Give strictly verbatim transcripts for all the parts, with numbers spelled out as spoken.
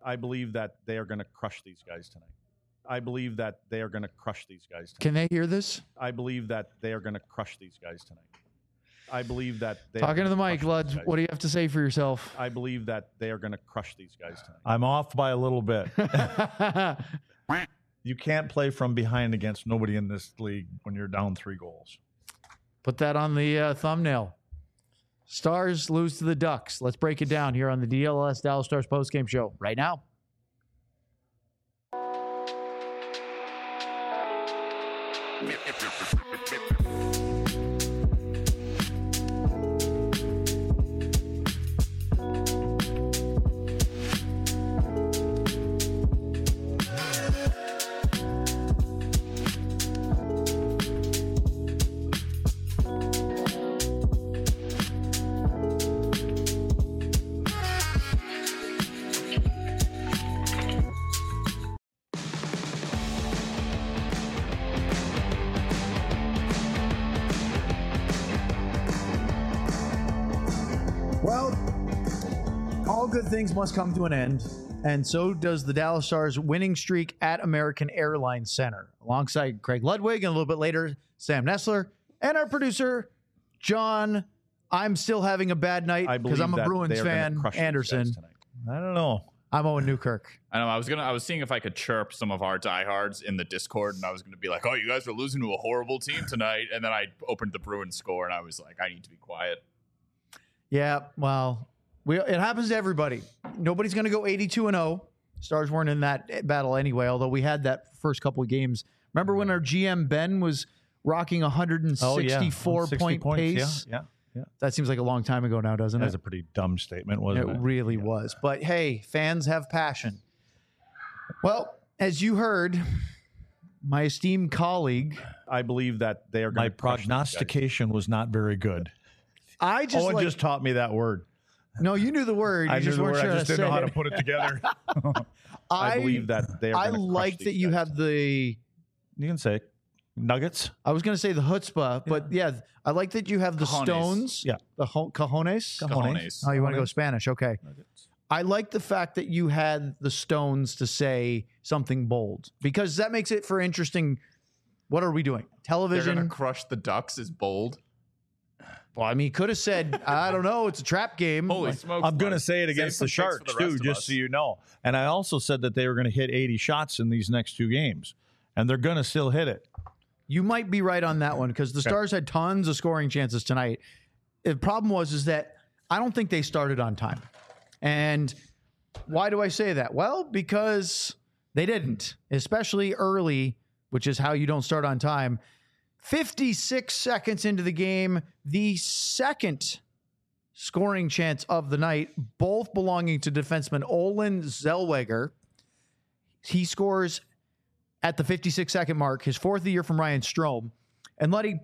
I believe that they are going to crush these guys tonight. I believe that they are going to crush these guys tonight. Can they hear this? I believe that they are going to crush these guys tonight. I believe that they Talking to the mic, Luds. What do you have to say for yourself? I believe that they are going to crush these guys tonight. I'm off by a little bit. You can't play from behind against nobody in this league when you're down three goals. Put that on the uh, thumbnail. Stars lose to the Ducks. Let's break it down here on the D L S Dallas Stars postgame show right now. Good things must come to an end, and so does the Dallas Stars winning streak at American Airlines Center. Alongside Craig Ludwig, and a little bit later, Sam Nessler, and our producer, John. I'm still having a bad night because I'm a Bruins fan, Anderson. I don't know. I'm Owen Newkirk. I know. I was gonna. I was seeing if I could chirp some of our diehards in the Discord, and I was gonna be like, "Oh, you guys are losing to a horrible team tonight." And then I opened the Bruins score, and I was like, "I need to be quiet." Yeah, well. We, it happens to everybody. Nobody's going to go eighty-two and oh. Stars weren't in that battle anyway, although we had that first couple of games. Remember when our G M Ben was rocking one sixty-four oh, yeah. point points, pace? Yeah, yeah, yeah. That seems like a long time ago now, doesn't it? That's a pretty dumb statement, wasn't it? It really yeah. was. But hey, fans have passion. Well, as you heard, my esteemed colleague. I believe that they are going My to crush prognostication was not very good. I just Owen like, just taught me that word. No, you knew the word. You I just knew the weren't word. sure I just to didn't know how say to it. put it together. I, I believe that they are I going to like that you have the. You can say nuggets. I was going to say the chutzpah, but yeah. yeah, I like that you have the Cajones. stones. Yeah. The ho- cajones. Cajones. Oh, you want to go Spanish? Okay. Nuggets. I like the fact that you had the stones to say something bold because that makes it for interesting. What are we doing? They're Television. gonna crush the Ducks is bold. Well, I mean, could have said, I don't know, it's a trap game. Holy Like, smokes! I'm going to Mike. say it Save against some the picks Sharks, for the rest too, of just us. so you know. And I also said that they were going to hit eighty shots in these next two games, and they're going to still hit it. You might be right on that one because the Okay. Stars had tons of scoring chances tonight. The problem was is that I don't think they started on time. And why do I say that? Well, because they didn't, especially early, which is how you don't start on time. fifty-six seconds into the game, the second scoring chance of the night, both belonging to defenseman Olin Zellweger. He scores at the fifty-six second mark, his fourth of the year from Ryan Strome. And Luddy,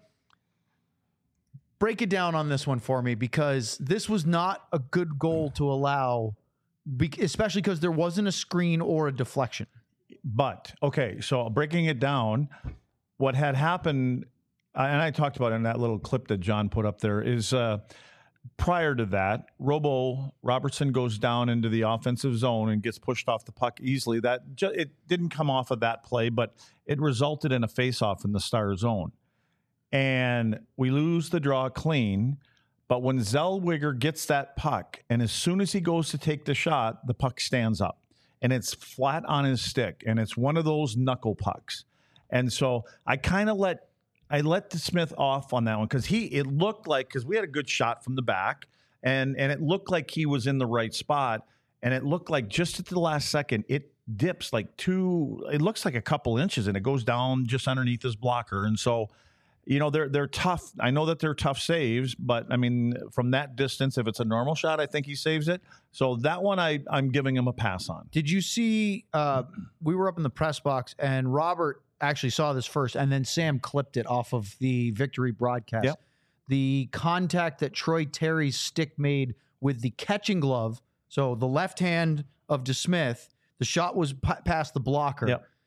break it down on this one for me because this was not a good goal to allow, especially because there wasn't a screen or a deflection. But, okay, so breaking it down, what had happened, uh, and I talked about it in that little clip that John put up there, is uh, prior to that, Robo Robertson goes down into the offensive zone and gets pushed off the puck easily. That ju- it didn't come off of that play, but it resulted in a face-off in the Star zone. And we lose the draw clean, but when Zellweger gets that puck, and as soon as he goes to take the shot, the puck stands up. And it's flat on his stick, and it's one of those knuckle pucks. And so I kind of let I let the Smith off on that one because he it looked like because we had a good shot from the back, and and it looked like he was in the right spot, and it looked like just at the last second it dips like two. It looks like a couple inches, and it goes down just underneath his blocker, and so. You know, they're they're tough. I know that they're tough saves, but, I mean, from that distance, if it's a normal shot, I think he saves it. So that one I, I'm giving him a pass on. Did you see, uh, we were up in the press box, and Robert actually saw this first, and then Sam clipped it off of the Victory broadcast. Yep. The contact that Troy Terry's stick made with the catching glove, so the left hand of DeSmith, the shot was p- past the blocker. Yep.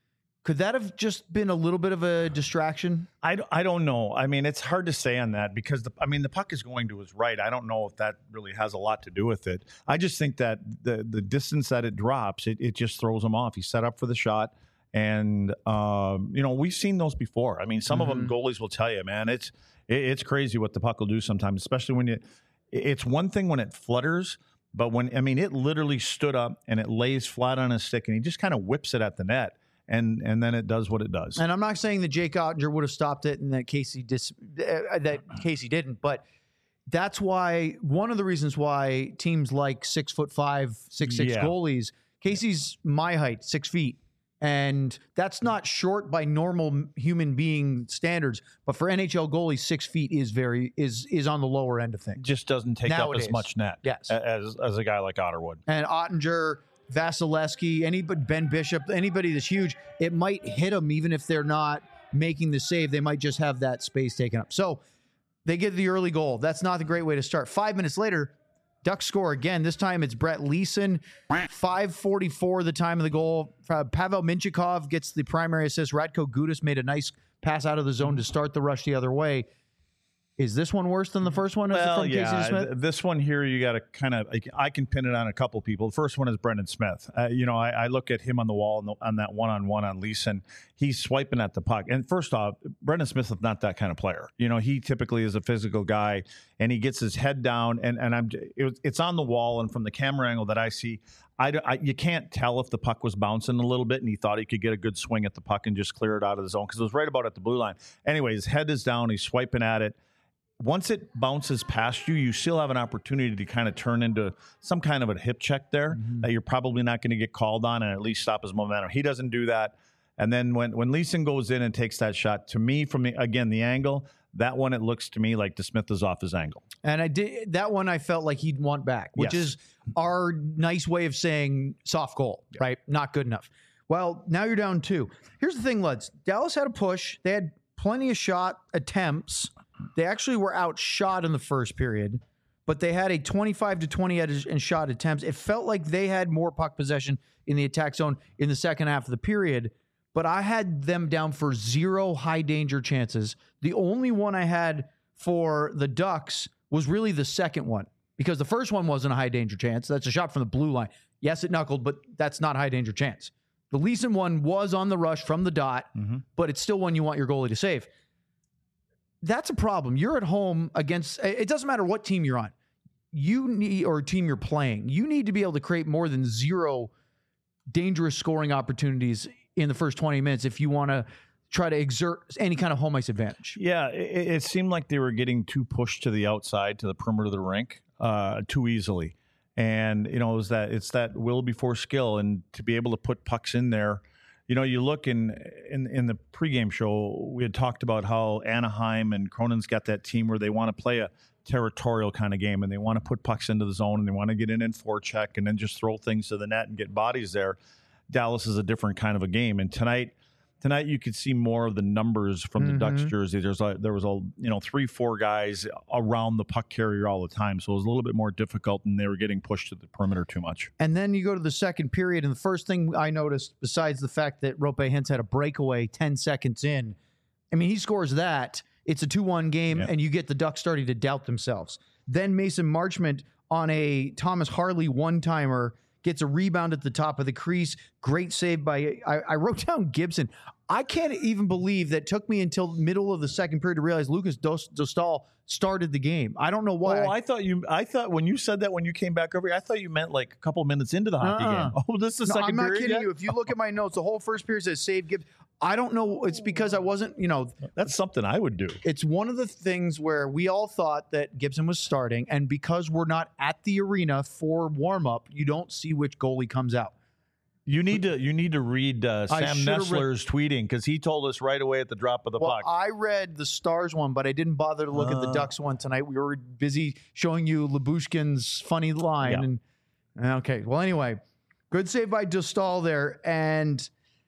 Could that have just been a little bit of a distraction? I, d- I don't know. I mean, it's hard to say on that because, the, I mean, the puck is going to his right. I don't know if that really has a lot to do with it. I just think that the the distance that it drops, it, it just throws him off. He's set up for the shot. And, um, you know, we've seen those before. I mean, some Mm-hmm. of them goalies will tell you, man, it's it, it's crazy what the puck will do sometimes, especially when you it's one thing when it flutters, but when, I mean, it literally stood up and it lays flat on his stick and he just kind of whips it at the net. And and then it does what it does. And I'm not saying that Jake Ottinger would have stopped it and that Casey dis, uh, that Casey didn't, but that's why one of the reasons why teams like six foot five, six six Yeah. goalies. Casey's my height, six feet, and that's not short by normal human being standards. But for N H L goalies, six feet is very is is on the lower end of things. Just doesn't take Nowadays. up as much net Yes. a- as as a guy like Otter would. And Ottinger, Vasilevsky, anybody, Ben Bishop, anybody that's huge, it might hit them even if they're not making the save. They might just have that space taken up. So they get the early goal. That's not the great way to start. Five minutes later, Ducks score again. This time it's Brett Leeson. five forty-four the time of the goal. Uh, Pavel Minchikov gets the primary assist. Radko Gudas made a nice pass out of the zone to start the rush the other way. Is this one worse than the first one? Is it Well, from Casey yeah, Smith? th- this one here, you got to kind of, I can pin it on a couple people. The first one is Brendan Smith. Uh, you know, I, I look at him on the wall on, the, on that one-on-one on Leeson. He's swiping at the puck. And first off, Brendan Smith is not that kind of player. You know, he typically is a physical guy, and he gets his head down, and, and I'm it, was- it's on the wall, and from the camera angle that I see, I, d- I- you can't tell if the puck was bouncing a little bit, and he thought he could get a good swing at the puck and just clear it out of the zone because it was right about at the blue line. Anyway, his head is down. He's swiping at it. Once it bounces past you, you still have an opportunity to kind of turn into some kind of a hip check there that you're probably not going to get called on and at least stop his momentum. He doesn't do that. And then when, when Leeson goes in and takes that shot, to me, from the, again, the angle, that one, it looks to me like DeSmith is off his angle. And I did that one. I felt like he'd want back, which Yes. is our nice way of saying soft goal, right? Not good enough. Well, now you're down two. Here's the thing, Luds. Dallas had a push. They had plenty of shot attempts. They actually were outshot in the first period, but they had a twenty-five to twenty edge and shot attempts. It felt like they had more puck possession in the attack zone in the second half of the period, but I had them down for zero high danger chances. The only one I had for the Ducks was really the second one, because the first one wasn't a high danger chance. That's a shot from the blue line. Yes, it knuckled, but that's not a high danger chance. The Leeson one was on the rush from the dot, but it's still one you want your goalie to save. That's a problem. You're at home against, it doesn't matter what team you're on. You need, or team you're playing, you need to be able to create more than zero dangerous scoring opportunities in the first twenty minutes if you want to try to exert any kind of home ice advantage. Yeah, it, it seemed like they were getting too pushed to the outside, to the perimeter of the rink, uh, too easily. And, you know, it was that it's that will before skill, and to be able to put pucks in there. You know, you look in, in in the pregame show, we had talked about how Anaheim and Cronin's got that team where they want to play a territorial kind of game, and they want to put pucks into the zone, and they want to get in and forecheck and then just throw things to the net and get bodies there. Dallas is a different kind of a game. And tonight, tonight you could see more of the numbers from the Ducks jersey. There's a, there was a you know three, four guys around the puck carrier all the time, so it was a little bit more difficult, and they were getting pushed to the perimeter too much. And then you go to the second period, and the first thing I noticed, besides the fact that Rope Hintz had a breakaway ten seconds in, I mean, he scores that. It's a two one game, Yep. and you get the Ducks starting to doubt themselves. Then Mason Marchment on a Thomas Harley one-timer gets a rebound at the top of the crease. Great save by, I, I wrote down Gibson. I can't even believe that took me until middle of the second period to realize Lucas Dos- Dostal started the game. I don't know why. Oh, I thought you. I thought when you said that when you came back over here, I thought you meant like a couple minutes into the hockey Uh-uh. game. Oh, this is the No, second I'm not period. kidding yet? you. If you look at my notes, the whole first period says save Gibbs. I don't know. It's because I wasn't, you know, That's something I would do. it's one of the things where we all thought that Gibson was starting, and because we're not at the arena for warm up, you don't see which goalie comes out. You need to. You need to read uh, I Sam should've Nessler's tweeting because he told us right away at the drop of the Well, puck. I read the Stars one, but I didn't bother to look at the Uh. Ducks one tonight. We were busy showing you Labushkin's funny line. Yeah. And okay, well, anyway, good save by Dostal there. And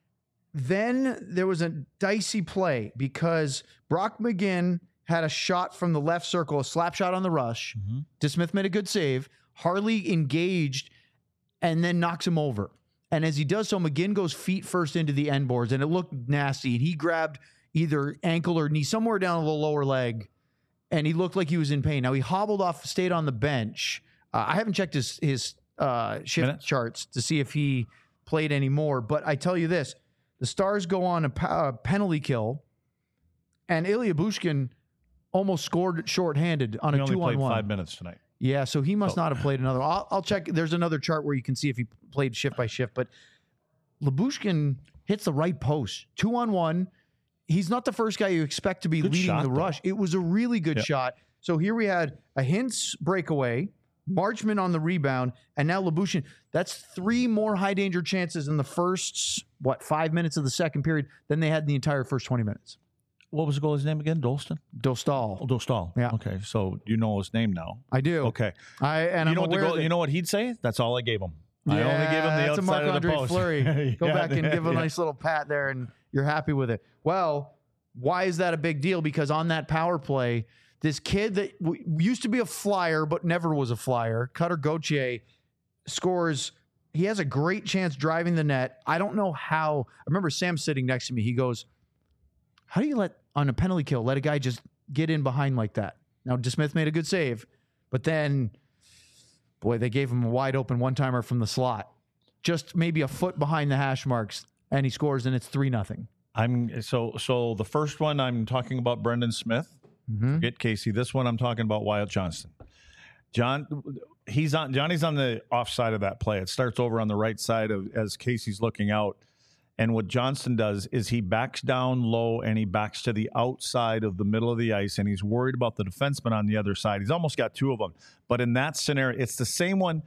then there was a dicey play because Brock McGinn had a shot from the left circle, a slap shot on the rush. DeSmith made a good save. Harley engaged and then knocks him over. And as he does so, McGinn goes feet first into the end boards, and it looked nasty. And he grabbed either ankle or knee somewhere down the lower leg, and he looked like he was in pain. Now, he hobbled off, stayed on the bench. Uh, I haven't checked his, his uh, shift Minutes? charts to see if he played anymore. But I tell you this, the Stars go on a uh, penalty kill, and Ilya Bushkin almost scored shorthanded on He a only played two-on-one. five minutes tonight. Yeah, so he must So- not have played another. I'll, I'll check. There's another chart where you can see if he played shift by shift. But Lyubushkin hits the right post, two on one. He's not the first guy you expect to be Good leading shot, the though. rush. It was a really good Yep. shot. So here we had a Hintz breakaway, Marchman on the rebound, and now Lyubushkin. That's three more high danger chances in the first, what, five minutes of the second period than they had in the entire first twenty minutes. What was the goalie's name again? Dolston? Dostal. Oh, Dostal. Yeah. Okay, so you know his name now. I do. Okay. I and you I'm know what the aware goal, that- you know what he'd say? That's all I gave him. I Yeah, only gave him the that's a outside of the Marc-Andre post. Fleury. Go Yeah, back and give him yeah. a nice little pat there, and you're happy with it. Well, why is that a big deal? Because on that power play, this kid that w- used to be a flyer but never was a flyer, Cutter Gauthier, scores. He has a great chance driving the net. I don't know how. I remember Sam sitting next to me. He goes, "How do you let on a penalty kill let a guy just get in behind like that?" Now, DeSmith made a good save, but then, boy, they gave him a wide open one timer from the slot, just maybe a foot behind the hash marks, and he scores, and it's three nothing. I'm so so the first one I'm talking about Brendan Smith. Mm-hmm. Forget Casey. This one I'm talking about Wyatt Johnston. John he's on Johnny's on the offside of that play. It starts over on the right side of as Casey's looking out. And what Johnston does is he backs down low and he backs to the outside of the middle of the ice, and he's worried about the defenseman on the other side. He's almost got two of them. But in that scenario, it's the same one.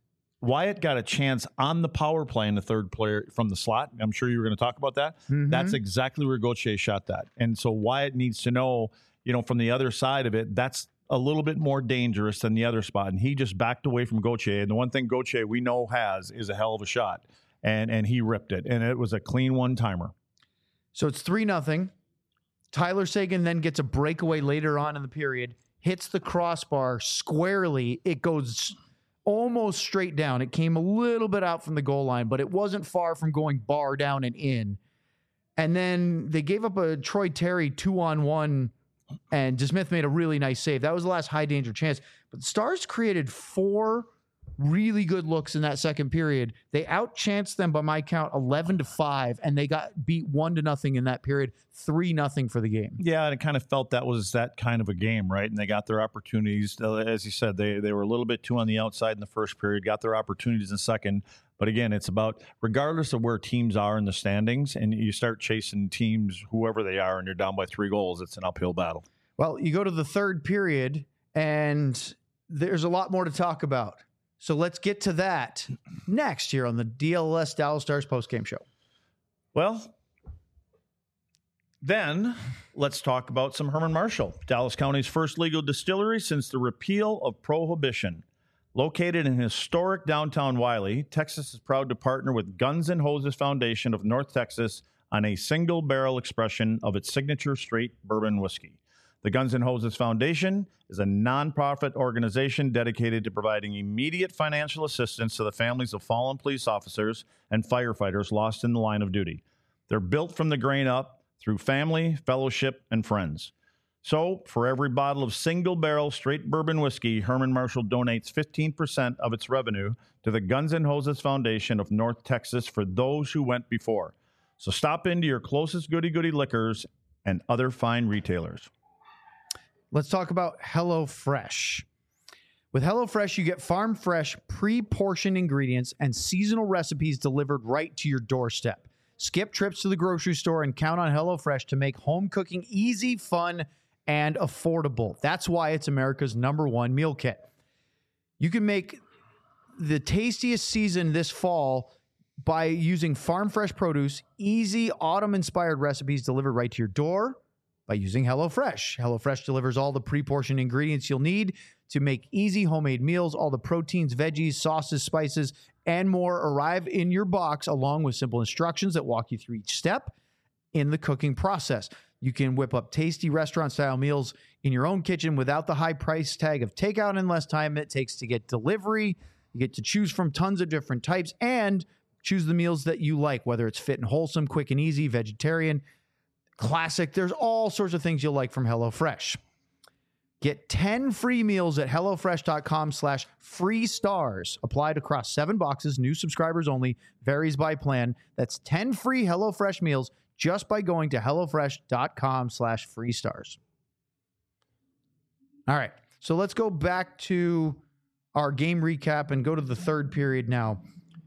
Wyatt got a chance on the power play in the third player from the slot. I'm sure you were going to talk about that. Mm-hmm. That's exactly where Gauthier shot that. And so Wyatt needs to know, you know, from the other side of it, that's a little bit more dangerous than the other spot. And he just backed away from Gauthier. And the one thing Gauthier we know has is a hell of a shot. And and he ripped it. And it was a clean one-timer. So it's three nothing. Tyler Seguin then gets a breakaway later on in the period, hits the crossbar squarely. It goes almost straight down. It came a little bit out from the goal line, but it wasn't far from going bar down and in. And then they gave up a Troy Terry two-on-one, and DeSmith made a really nice save. That was the last high-danger chance. But the Stars created four really good looks in that second period. They outchanced them by my count eleven to five, and they got beat one to nothing in that period, three nothing for the game. Yeah, and it kind of felt that was that kind of a game, right? And they got their opportunities. As you said, they they were a little bit too on the outside in the first period, got their opportunities in the second. But again, it's about, regardless of where teams are in the standings, and you start chasing teams, whoever they are, and you're down by three goals, it's an uphill battle. Well, you go to the third period, and there's a lot more to talk about. So let's get to that next here on the D L S Dallas Stars postgame show. Well, then let's talk about some Herman Marshall, Dallas County's first legal distillery since the repeal of Prohibition. Located in historic downtown Wiley, Texas is proud to partner with Guns N' Hoses Foundation of North Texas on a single barrel expression of its signature straight bourbon whiskey. The Guns N' Hoses Foundation is a nonprofit organization dedicated to providing immediate financial assistance to the families of fallen police officers and firefighters lost in the line of duty. They're built from the grain up through family, fellowship, and friends. So, for every bottle of single-barrel straight bourbon whiskey, Herman Marshall donates fifteen percent of its revenue to the Guns N' Hoses Foundation of North Texas for those who went before. So stop into your closest goody-goody liquors and other fine retailers. Let's talk about HelloFresh. With HelloFresh, you get farm fresh, pre-portioned ingredients and seasonal recipes delivered right to your doorstep. Skip trips to the grocery store and count on HelloFresh to make home cooking easy, fun, and affordable. That's why it's America's number one meal kit. You can make the tastiest season this fall by using farm fresh produce, easy autumn-inspired recipes delivered right to your door by using HelloFresh. HelloFresh delivers all the pre-portioned ingredients you'll need to make easy homemade meals. All the proteins, veggies, sauces, spices, and more arrive in your box along with simple instructions that walk you through each step in the cooking process. You can whip up tasty restaurant-style meals in your own kitchen without the high price tag of takeout and less time it takes to get delivery. You get to choose from tons of different types, and Choose the meals that you like, whether it's fit and wholesome, quick and easy, vegetarian, classic. There's all sorts of things you'll like from HelloFresh. Get ten free meals at HelloFresh.com slash free stars. Applied across seven boxes, new subscribers only, varies by plan. That's ten free HelloFresh meals just by going to HelloFresh.com slash free stars. All right, so let's go back to our game recap and go to the third period now.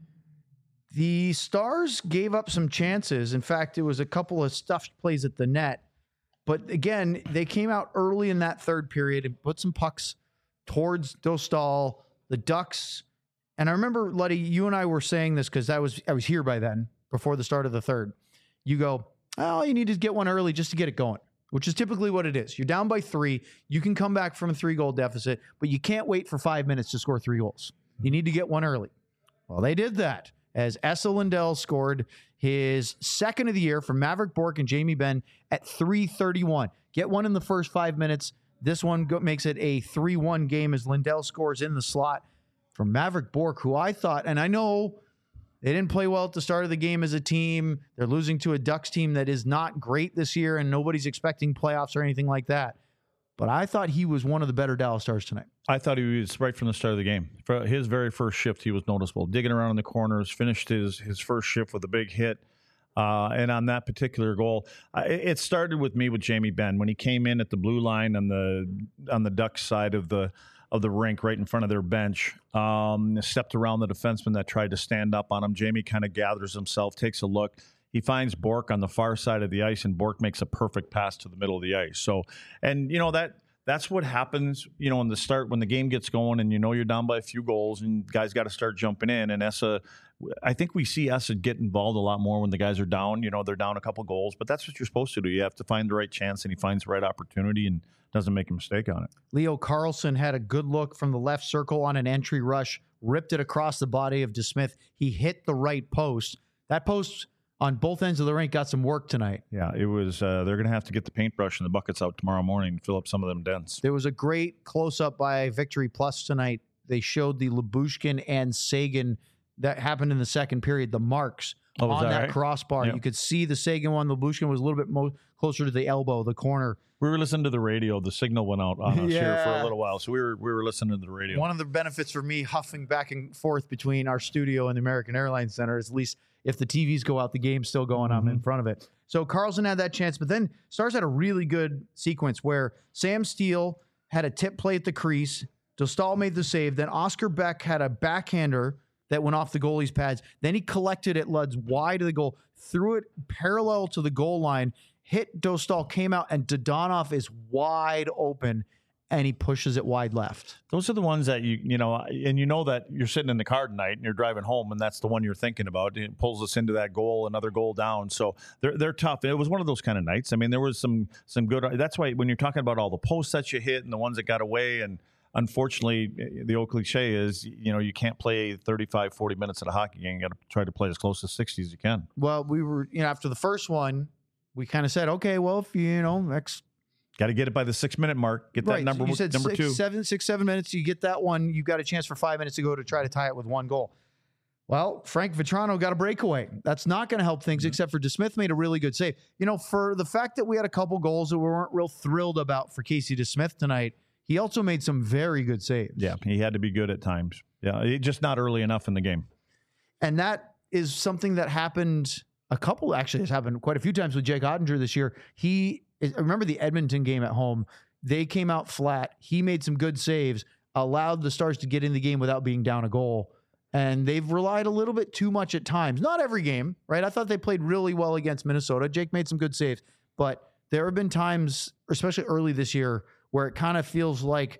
The Stars gave up some chances. In fact, it was a couple of stuffed plays at the net. But again, they came out early in that third period and put some pucks towards Dostal, the Ducks. And I remember, Luddy, you and I were saying this because I was I was here by then, before the start of the third. You go, oh, you need to get one early just to get it going, which is typically what it is. You're down by three. You can come back from a three-goal deficit, but you can't wait for five minutes to score three goals. You need to get one early. Well, they did that as Esa Lindell scored his second of the year from Maverick Bourque and Jamie Benn at three thirty-one. Get one in the first five minutes. This one go- makes it a three one game as Lindell scores in the slot from Maverick Bourque, who I thought, and I know they didn't play well at the start of the game as a team. They're losing to a Ducks team that is not great this year, and nobody's expecting playoffs or anything like that. But I thought he was one of the better Dallas Stars tonight. I thought he was right from the start of the game. For his very first shift, he was noticeable. Digging around in the corners, finished his his first shift with a big hit. Uh, and on that particular goal, uh, it started with me with Jamie Benn when he came in at the blue line on the on the Ducks side of the of the rink, right in front of their bench. Um, stepped around the defenseman that tried to stand up on him. Jamie kind of gathers himself, takes a look. He finds Bourque on the far side of the ice, and Bourque makes a perfect pass to the middle of the ice. So, and you know that. That's what happens, you know, in the start when the game gets going and you know you're down by a few goals and guys got to start jumping in. And Esa, I think we see Esa get involved a lot more when the guys are down. You know, they're down a couple goals, but that's what you're supposed to do. You have to find the right chance, and he finds the right opportunity and doesn't make a mistake on it. Leo Carlson had a good look from the left circle on an entry rush, ripped it across the body of DeSmith. He hit the right post. That post on both ends of the rink got some work tonight. Yeah, it was. Uh, they're going to have to get the paintbrush and the buckets out tomorrow morning and fill up some of them dents. There was a great close-up by Victory Plus tonight. They showed the Lyubushkin and Sagan that happened in the second period, the marks oh, on that, that right? crossbar. Yep. You could see the Sagan one. The Lyubushkin was a little bit mo- closer to the elbow, the corner. We were listening to the radio. The signal went out on us Yeah. here for a little while, so we were we were listening to the radio. One of the benefits for me huffing back and forth between our studio and the American Airlines Center is at least if the T Vs go out, the game's still going on Mm-hmm. in front of it. So Carlson had that chance, but then Stars had a really good sequence where Sam Steele had a tip play at the crease. Dostal made the save. Then Oscar Beck had a backhander that went off the goalie's pads. Then he collected it, Luds, wide of the goal, threw it parallel to the goal line, hit Dostal, came out, and Dodonov is wide open, and he pushes it wide left. Those are the ones that you you know, and you know that you're sitting in the car tonight and you're driving home, and that's the one you're thinking about. It pulls us into that goal, another goal down. So they're they're tough. It was one of those kind of nights. I mean, there was some some good. That's why when you're talking about all the posts that you hit and the ones that got away, and unfortunately, the old cliche is, you know, you can't play thirty-five, forty minutes at a hockey game. You got to try to play as close to sixty as you can. Well, we were, you know, after the first one, we kind of said, okay, well, if you, you know, next. Got to get it by the six minute mark. Get that Right, number you said number six, two. seven, six, seven minutes. You get that one. You got a chance for five minutes to go to try to tie it with one goal. Well, Frank Vetrano got a breakaway. That's not going to help things, mm-hmm. except for DeSmith made a really good save. You know, for the fact that we had a couple goals that we weren't real thrilled about for Casey DeSmith tonight, he also made some very good saves. Yeah, he had to be good at times. Yeah, it, just not early enough in the game. And that is something that happened a couple, actually has happened quite a few times with Jake Ottinger this year. He, I remember the Edmonton game at home. They came out flat. He made some good saves, allowed the Stars to get in the game without being down a goal. And they've relied a little bit too much at times. Not every game, right? I thought they played really well against Minnesota. Jake made some good saves. But there have been times, especially early this year, where it kind of feels like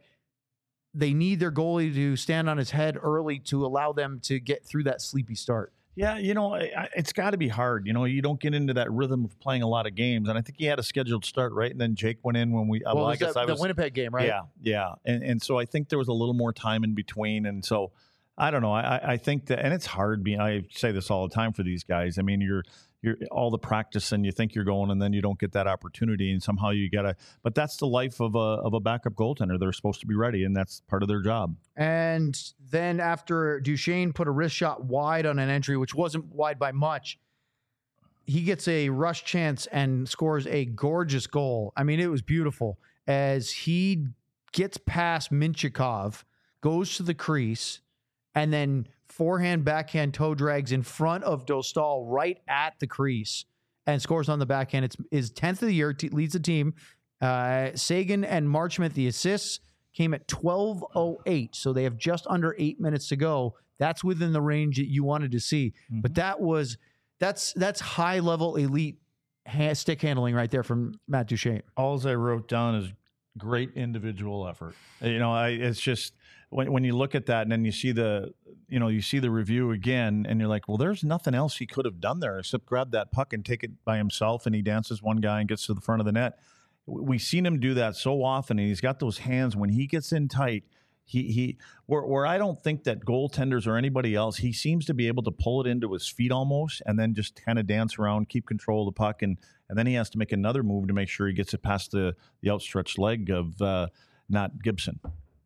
they need their goalie to stand on his head early to allow them to get through that sleepy start. Yeah, you know, I- it's got to be hard. You know, you don't get into that rhythm of playing a lot of games. And I think he had a scheduled start, right? And then Jake went in when we, Well, well, I was guess that, I was. the Winnipeg game, right? Yeah, yeah. And, and so I think there was a little more time in between. And so I don't know. I, I think that, and it's hard being, I say this all the time for these guys. I mean, you're, you're all the practice and you think you're going and then you don't get that opportunity and somehow you got to, but that's the life of a, of a backup goaltender. They're supposed to be ready and that's part of their job. And then after Duchesne put a wrist shot wide on an entry, which wasn't wide by much, he gets a rush chance and scores a gorgeous goal. I mean, it was beautiful as he gets past Minchikov, goes to the crease, and then forehand, backhand, toe drags in front of Dostal right at the crease and scores on the backhand. It's his tenth of the year, t- leads the team. Uh, Sagan and Marchment, the assists came at twelve oh eight, so they have just under eight minutes to go. That's within the range that you wanted to see. Mm-hmm. But that was that's that's high level elite hand, stick handling right there from Matt Duchesne. All I wrote down is great individual effort. You know, I, it's just when when you look at that and then you see the, you know, you see the review again and you're like, well, there's nothing else he could have done there except grab that puck and take it by himself. And he dances one guy and gets to the front of the net. We've seen him do that so often, and he's got those hands when he gets in tight. He he where where I don't think that goaltenders or anybody else, he seems to be able to pull it into his feet almost, and then just kind of dance around, keep control of the puck, and and then he has to make another move to make sure he gets it past the the outstretched leg of uh, not Gibson.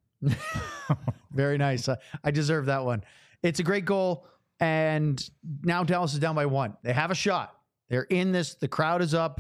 Very nice. Uh, I deserve that one. It's a great goal, and now Dallas is down by one. They have a shot. They're in this. The crowd is up.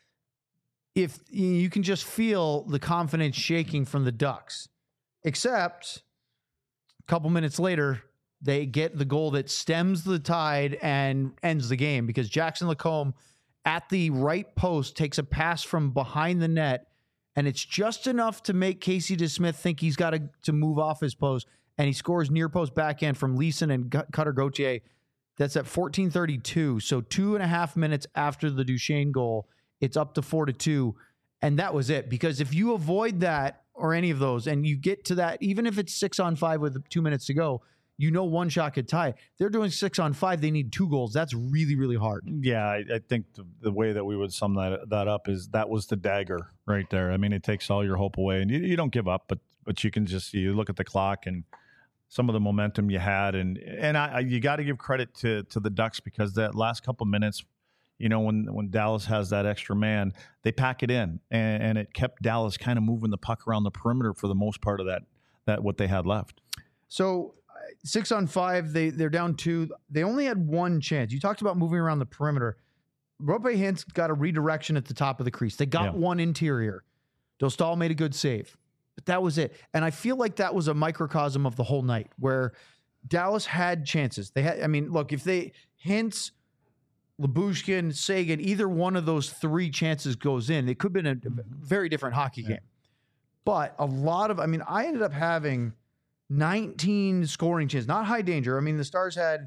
If you can just feel the confidence shaking from the Ducks, except a couple minutes later, they get the goal that stems the tide and ends the game because Jackson Lacombe at the right post takes a pass from behind the net, and it's just enough to make Casey DeSmith think he's got to, to move off his post, and he scores near post backhand from Leeson and Cutter Gauthier. That's at fourteen thirty-two, so two and a half minutes after the Duchesne goal. It's up to four to two. And that was it. Because if you avoid that or any of those and you get to that, even if it's six on five with two minutes to go, you know one shot could tie. They're doing six on five. They need two goals. That's really, really hard. Yeah, I, I think the, the way that we would sum that that up is that was the dagger right there. I mean, it takes all your hope away. And you, you don't give up, but but you can just you look at the clock and some of the momentum you had. And and I, I you got to give credit to to the Ducks because that last couple minutes, you know, when, when Dallas has that extra man, they pack it in, and, and it kept Dallas kind of moving the puck around the perimeter for the most part of that, that what they had left. So six on five, they, they're down two. They only had one chance. You talked about moving around the perimeter. Rope Hintz got a redirection at the top of the crease. They got yeah. one interior. Dostal made a good save, but that was it. And I feel like that was a microcosm of the whole night where Dallas had chances. They had, I mean, look, if they, Hintz, Lyubushkin, Sagan, either one of those three chances goes in, it could have been a very different hockey yeah. game. But a lot of, I mean, I ended up having nineteen scoring chances, not high danger. I mean, the Stars had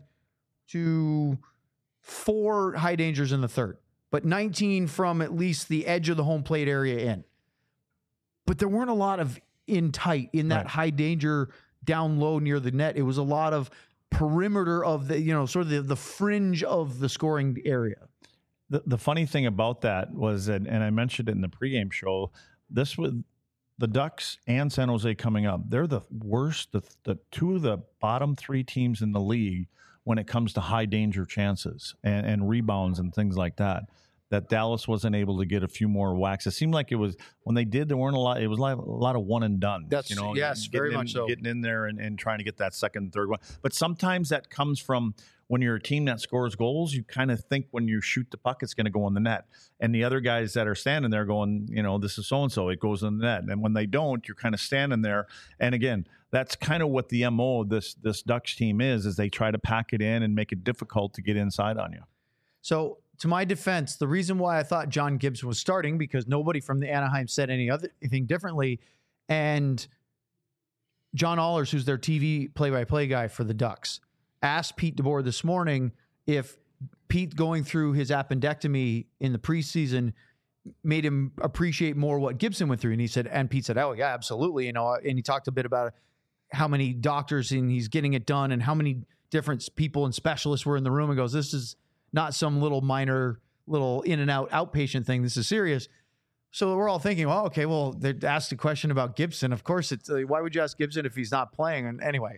two, four high dangers in the third, but nineteen from at least the edge of the home plate area in. But there weren't a lot of in tight, in that right. high danger down low near the net. It was a lot of perimeter of the, you know, sort of the, the fringe of the scoring area. The the funny thing about that was that, and I mentioned it in the pregame show, this was the Ducks and San Jose coming up. They're the worst, the, the two of the bottom three teams in the league when it comes to high danger chances and, and rebounds and things like that. That Dallas wasn't able to get a few more whacks. It seemed like it was when they did, there weren't a lot. It was like a lot of one and done. That's you know, yes, very in, much so. Getting in there and, and trying to get that second, third one. But sometimes that comes from when you're a team that scores goals. You kind of think when you shoot the puck, it's going to go in the net, and the other guys that are standing there going, you know, this is so and so, it goes in the net. And when they don't, you're kind of standing there. And again, that's kind of what the M O of this this Ducks team is: is they try to pack it in and make it difficult to get inside on you. So, to my defense, the reason why I thought John Gibson was starting, because nobody from the Anaheim said any other anything differently, and John Allers, who's their T V play-by-play guy for the Ducks, asked Pete DeBoer this morning if Pete going through his appendectomy in the preseason made him appreciate more what Gibson went through. And he said, and Pete said, oh, yeah, absolutely. You know, and he talked a bit about how many doctors and he's getting it done and how many different people and specialists were in the room, and goes, this is not some little minor, little in and out outpatient thing. This is serious. So we're all thinking, well, okay, well, they asked a question about Gibson. Of course, it's uh, why would you ask Gibson if he's not playing? And anyway,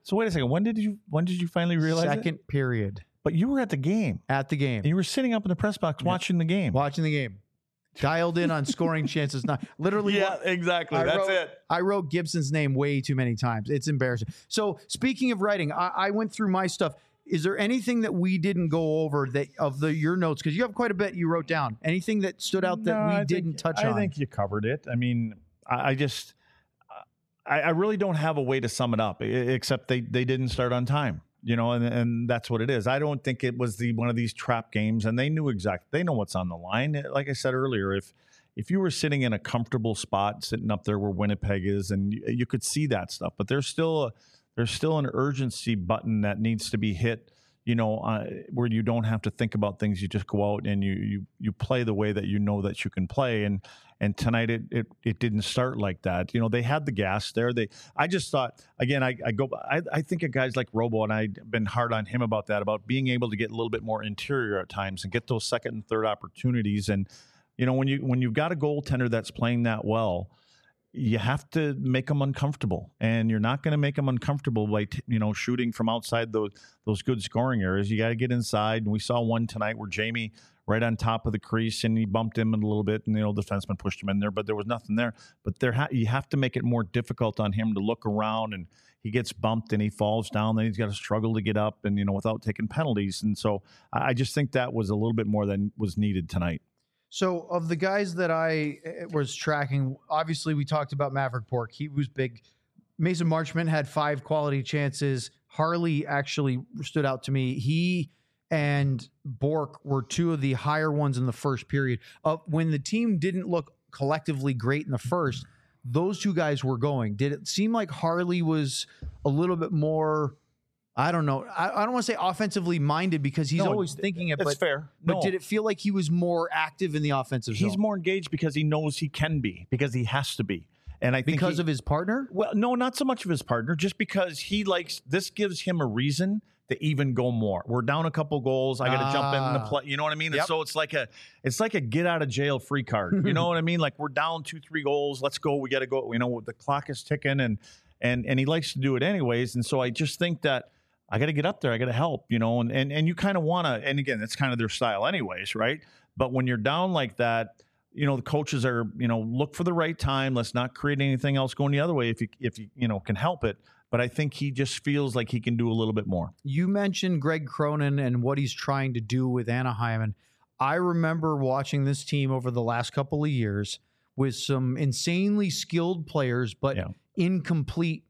So wait a second. When did you when did you finally realize Second it? period But you were at the game. at the game, And you were sitting up in the press box watching the game. watching the game, dialed in on scoring chances. Not literally. Yeah, exactly. I That's wrote, it. I wrote Gibson's name way too many times. It's embarrassing. So speaking of writing, I, I went through my stuff. Is there anything that we didn't go over that of the your notes? Because you have quite a bit you wrote down. Anything that stood out that No, we I didn't think, touch I on? think you covered it. I mean, I, I just, I, I really don't have a way to sum it up, e- except they they didn't start on time. You know, and and that's what it is. I don't think it was the one of these trap games, and they knew exactly. They know what's on the line. Like I said earlier, if if you were sitting in a comfortable spot, sitting up there where Winnipeg is, and you, you could see that stuff, but there's still a, there's still an urgency button that needs to be hit. You know, uh, where you don't have to think about things. You just go out and you you you play the way that you know that you can play. And and tonight it it it didn't start like that. You know, they had the gas there. They I just thought again. I, I go. I I think of guys like Robo, and I've been hard on him about that, about being able to get a little bit more interior at times and get those second and third opportunities. And you know, when you when you've got a goaltender that's playing that well, you have to make them uncomfortable, and you're not going to make them uncomfortable by t- you know shooting from outside those those good scoring areas. You got to get inside, and we saw one tonight where Jamie right on top of the crease, and he bumped him a little bit, and you know the defenseman pushed him in there, but there was nothing there. But there, ha- you have to make it more difficult on him to look around, and he gets bumped and he falls down. Then he's got to struggle to get up, and you know without taking penalties. And so I I just think that was a little bit more than was needed tonight. So, of the guys that I uh, was tracking, obviously we talked about Maverick Bork. He was big. Mason Marchment had five quality chances. Harley actually stood out to me. He and Bork were two of the higher ones in the first period. Uh, when the team didn't look collectively great in the first, those two guys were going. Did it seem like Harley was a little bit more, I don't know, I, I don't want to say offensively minded because he's No, always thinking it, That's but fair. but No. did it feel like he was more active in the offensive He's zone more engaged because he knows he can be, because he has to be. And I think because he- of his partner? well, no, not so much of his partner, just because he likes this gives him a reason to even go more. We're down a couple goals. I got to jump in the Ah. play. You know what I mean? And Yep. so it's like a it's like a get out of jail free card. You know what I mean? Like we're down two, three goals. Let's go. We got to go. You know, the clock is ticking, and and and he likes to do it anyways. And so I just think that I got to get up there. I got to help. You know, and and and you kind of want to. And again, that's kind of their style, anyways, right? But when you're down like that, you know, the coaches are, you know, look for the right time. Let's not create anything else going the other way if you if you you know can help it. But I think he just feels like he can do a little bit more. You mentioned Greg Cronin and what he's trying to do with Anaheim. And I remember watching this team over the last couple of years with some insanely skilled players, but Yeah. incomplete,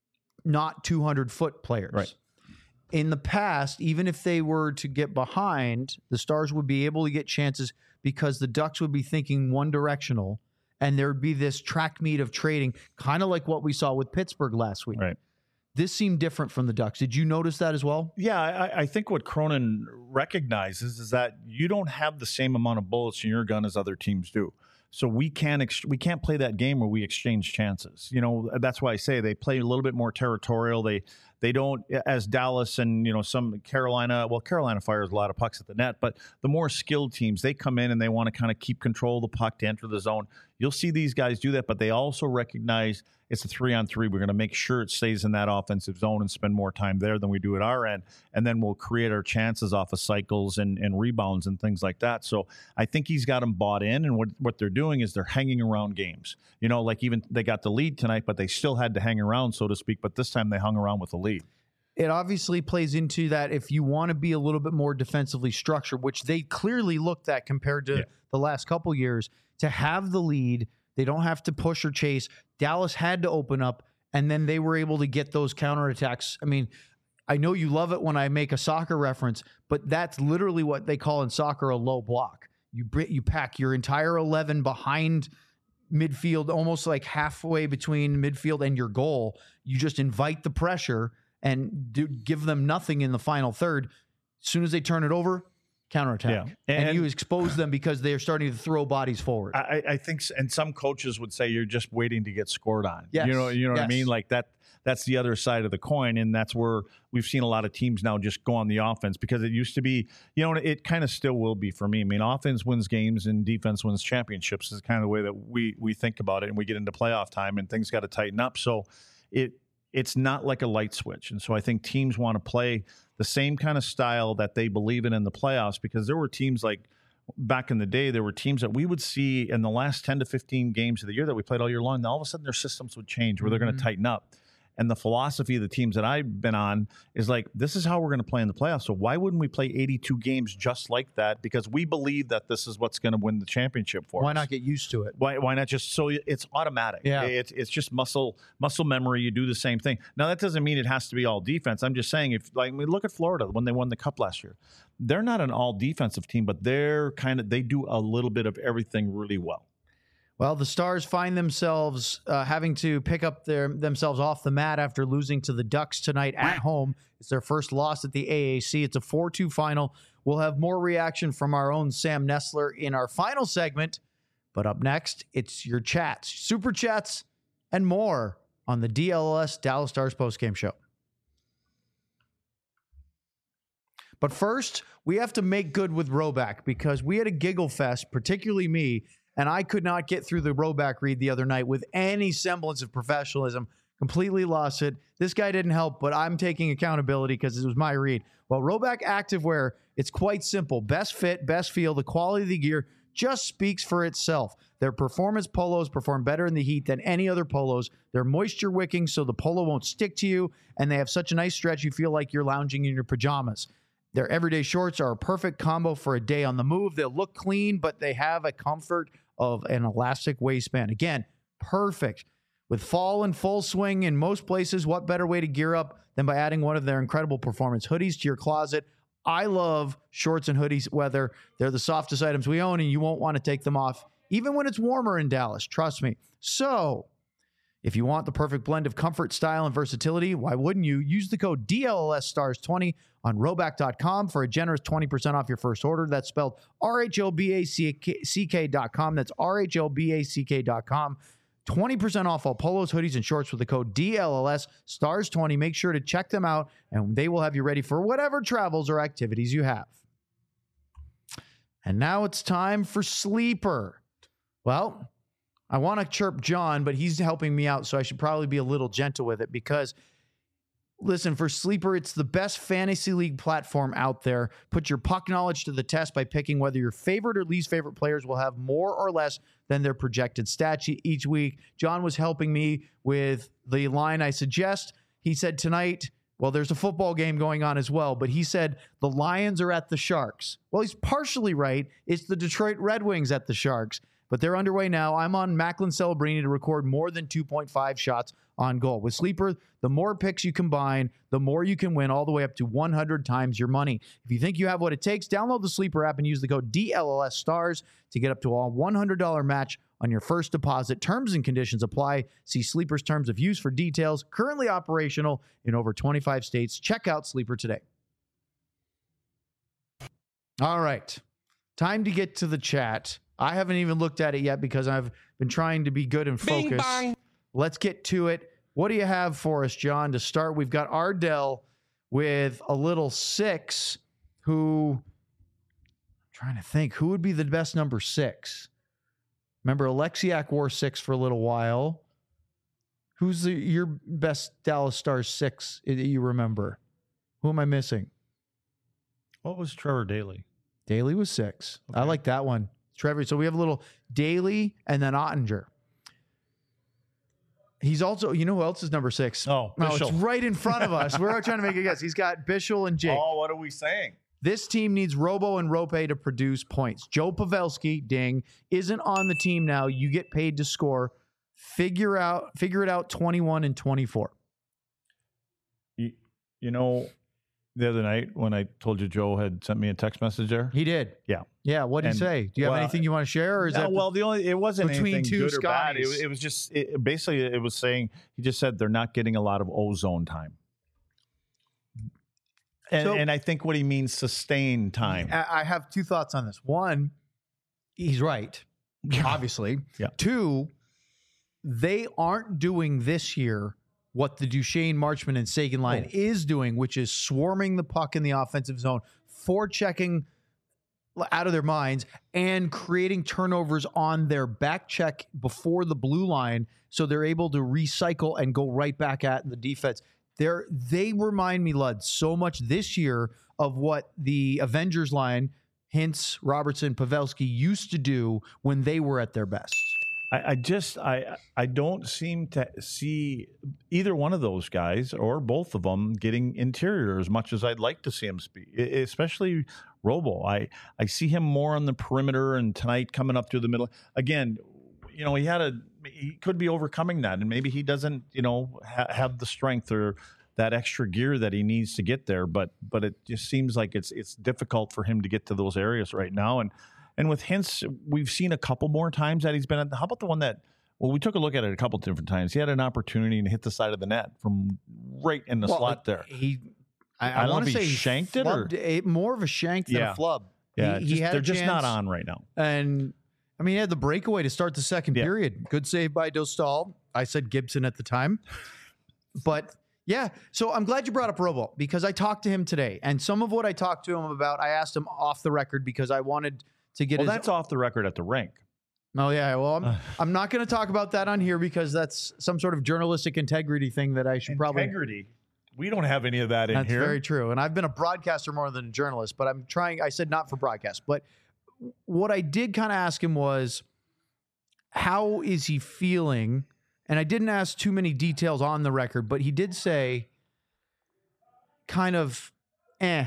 not two hundred foot players. Right. In the past, even if they were to get behind, the Stars would be able to get chances because the Ducks would be thinking one directional and there would be this track meet of trading, kind of like what we saw with Pittsburgh last week. Right. This seemed different from the Ducks. Did you notice that as well? Yeah, I, I think what Cronin recognizes is that you don't have the same amount of bullets in your gun as other teams do. So we can't ex- we can't play that game where we exchange chances. You know, that's why I say they play a little bit more territorial. They they don't, as Dallas and you know some Carolina. Well, Carolina fires a lot of pucks at the net, but the more skilled teams, they come in and they want to kind of keep control of the puck to enter the zone. You'll see these guys do that, but they also recognize it's a three on three. We're going to make sure it stays in that offensive zone and spend more time there than we do at our end. And then we'll create our chances off of cycles and, and rebounds and things like that. So I think he's got them bought in. And what, what they're doing is they're hanging around games. You know, like even they got the lead tonight, but they still had to hang around, so to speak. But this time they hung around with the lead. It obviously plays into that if you want to be a little bit more defensively structured, which they clearly looked at compared to Yeah. the last couple years, to have the lead. They don't have to push or chase. Dallas had to open up, and then they were able to get those counterattacks. I mean, I know you love it when I make a soccer reference, but that's literally what they call in soccer a low block. You br- you pack your entire eleven behind midfield, almost like halfway between midfield and your goal. You just invite the pressure and do, give them nothing in the final third. As soon as they turn it over, counterattack. Yeah. And, And- you expose them because they're starting to throw bodies forward. I, I think, s- and some coaches would say you're just waiting to get scored on. Yes. You know, you know what I Yes. mean? Like that. That's the other side of the coin, and that's where we've seen a lot of teams now just go on the offense because it used to be, you know, it kind of still will be for me. I mean, offense wins games and defense wins championships is kind of the way that we we think about it, and we get into playoff time and things got to tighten up. So it it's not like a light switch. And so I think teams want to play the same kind of style that they believe in in the playoffs, because there were teams like back in the day, there were teams that we would see in the last ten to fifteen games of the year that we played all year long. And all of a sudden their systems would change where they're going to tighten up. And the philosophy of the teams that I've been on is like, this is how we're going to play in the playoffs. So why wouldn't we play eighty-two games just like that? Because we believe that this is what's going to win the championship for Why us. not get used to it? Why, why not just so it's automatic? Yeah. It's it's just muscle muscle memory. You do the same thing. Now that doesn't mean it has to be all defense. I'm just saying, if like we look at Florida when they won the Cup last year, they're not an all defensive team, but they're kind of they do a little bit of everything really well. Well, the Stars find themselves uh, having to pick up their themselves off the mat after losing to the Ducks tonight at home. It's their first loss at the A A C. It's a four two final. We'll have more reaction from our own Sam Nestler in our final segment. But up next, it's your chats, super chats, and more on the D L S Dallas Stars postgame show. But first, we have to make good with Roback because we had a giggle fest, particularly me, and I could not get through the Roback read the other night with any semblance of professionalism. Completely lost it. This guy didn't help, but I'm taking accountability because it was my read. Well, Roback Activewear, it's quite simple. Best fit, best feel, the quality of the gear just speaks for itself. Their performance polos perform better in the heat than any other polos. They're moisture wicking so the polo won't stick to you, and they have such a nice stretch you feel like you're lounging in your pajamas. Their everyday shorts are a perfect combo for a day on the move. They'll look clean, but they have a comfort of an elastic waistband. Again, perfect. With fall in full swing in most places, what better way to gear up than by adding one of their incredible performance hoodies to your closet? I love shorts and hoodies weather. They're the softest items we own, and you won't want to take them off, even when it's warmer in Dallas. Trust me. So, if you want the perfect blend of comfort, style, and versatility, why wouldn't you? Use the code D L S Stars twenty on roback dot com for a generous twenty percent off your first order. That's spelled R H O B A C K dot com. That's R H O B A C K dot com. twenty percent off all polos, hoodies, and shorts with the code D L L S Stars twenty. Make sure to check them out, and they will have you ready for whatever travels or activities you have. And now it's time for Sleeper. Well, I want to chirp John, but he's helping me out, so I should probably be a little gentle with it because, listen, for Sleeper, it's the best fantasy league platform out there. Put your puck knowledge to the test by picking whether your favorite or least favorite players will have more or less than their projected stats each week. John was helping me with the line I suggest. He said tonight, well, there's a football game going on as well, but he said the Lions are at the Sharks. Well, he's partially right. It's the Detroit Red Wings at the Sharks. But they're underway now. I'm on Macklin Celebrini to record more than two point five shots on goal. With Sleeper, the more picks you combine, the more you can win, all the way up to one hundred times your money. If you think you have what it takes, download the Sleeper app and use the code D L L S Stars to get up to a one hundred dollars match on your first deposit. Terms and conditions apply. See Sleeper's terms of use for details. Currently operational in over twenty-five states. Check out Sleeper today. All right. Time to get to the chat. I haven't even looked at it yet because I've been trying to be good and focused. Let's get to it. What do you have for us, John? To start, we've got Ardell with a little six who, I'm trying to think, who would be the best number six? Remember, Alexiak wore six for a little while. Who's the, your best Dallas Stars six that you remember? Who am I missing? What was Trevor Daley? Daley was six. Okay. I like that one. Trevor. So we have a little Daley and then Ottinger. He's also, you know who else is number six? Oh, no, Bischel. it's right in front of us. We're trying to make a guess. He's got Bischel and Jake. Oh, what are we saying? This team needs Robo and Rope to produce points. Joe Pavelski, ding, isn't on the team now. You get paid to score. Figure out, figure it out. twenty-one and twenty-four. You, you know, the other night when I told you Joe had sent me a text message there. He did. Yeah. Yeah. What did he And, say? Do you have well, anything you want to share, or is No, that well, the only it wasn't between anything two good or bad. It, Scotties? it was just it, basically it was saying he just said they're not getting a lot of ozone time, and, So- and I think what he means sustained time. I I have two thoughts on this. One, he's right, obviously. Yeah. Two, they aren't doing this year what the Duchesne, Marchman, and Sagan line Oh. is doing, which is swarming the puck in the offensive zone, forechecking out of their minds and creating turnovers on their back check before the blue line, so they're able to recycle and go right back at the defense. They're, they remind me, Lud, so much this year of what the Avengers line, Hintz, Robertson, Pavelski, used to do when they were at their best. I, I just I I don't seem to see either one of those guys or both of them getting interior as much as I'd like to see him speak, especially Robo. I, I see him more on the perimeter, and tonight coming up through the middle. Again, you know, he had a he could be overcoming that, and maybe he doesn't, you know, ha- have the strength or that extra gear that he needs to get there. But but it just seems like it's it's difficult for him to get to those areas right now. And And with Hintz, we've seen a couple more times that he's been at. How about the one that, well, we took a look at it a couple different times. He had an opportunity to hit the side of the net from right in the Well, slot there. He, I, I I, don't know want if to he say shanked it or- flubbed it, more of a shank than Yeah. a flub. Yeah, he, just- he had they're a just not chance, on right now. And I mean, he had the breakaway to start the second Yeah. period. Good save by Dostal. I said Gibson at the time, but yeah. So I'm glad you brought up Robo, because I talked to him today, and some of what I talked to him about, I asked him off the record because I wanted to get Well, his. that's off the record at the rink. Oh yeah, well, I'm, I'm not going to talk about that on here because that's some sort of journalistic integrity thing that I should probably. Integrity. We don't have any of that in That's here. very true, and I've been a broadcaster more than a journalist, but I'm trying. I said not for broadcast, but what I did kind of ask him was, how is he feeling? And I didn't ask too many details on the record, but he did say, kind of, eh.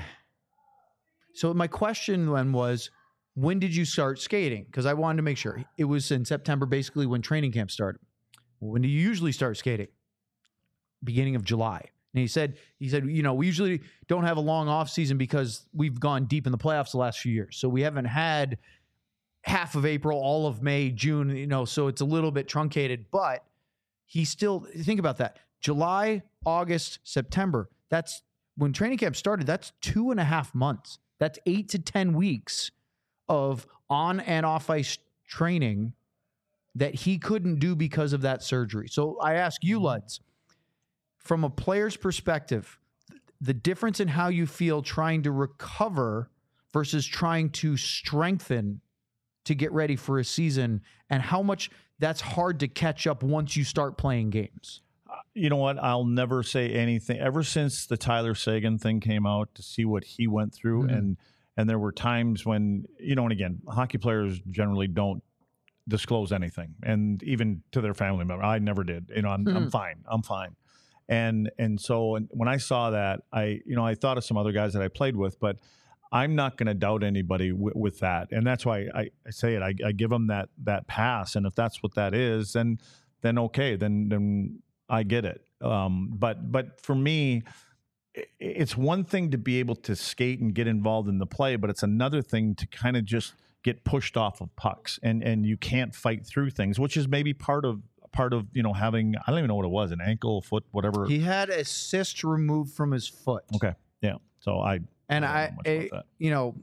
So my question then was, when did you start skating? Because I wanted to make sure. It was in September, basically when training camp started. When do you usually start skating? Beginning of July. And he said, he said, you know, we usually don't have a long off season because we've gone deep in the playoffs the last few years. So we haven't had half of April, all of May, June, you know, so it's a little bit truncated, but he still, think about that. July, August, September, that's when training camp started. That's two and a half months. That's eight to ten weeks of on and off ice training that he couldn't do because of that surgery. So I ask you, Luds, from a player's perspective, the difference in how you feel trying to recover versus trying to strengthen to get ready for a season, and how much that's hard to catch up once you start playing games. You know what? I'll never say anything. Ever since the Tyler Seguin thing came out, to see what he went through, Mm-hmm. and and there were times when, you know, and again, hockey players generally don't disclose anything, and even to their family member. I never did. You know, I'm, Mm-hmm. I'm fine. I'm fine. And and so when I saw that, I you know I thought of some other guys that I played with, but I'm not going to doubt anybody w- with that, and that's why I, I say it. I, I give them that that pass, and if that's what that is, then then okay, then then I get it. Um, but but for me, i- it's one thing to be able to skate and get involved in the play, but it's another thing to kind of just get pushed off of pucks, and and you can't fight through things, which is maybe part of part of you know having, I don't even know what it was, an ankle, foot, whatever. He had a cyst removed from his foot. Okay, yeah. So I And I I, don't know much about I- that. you know,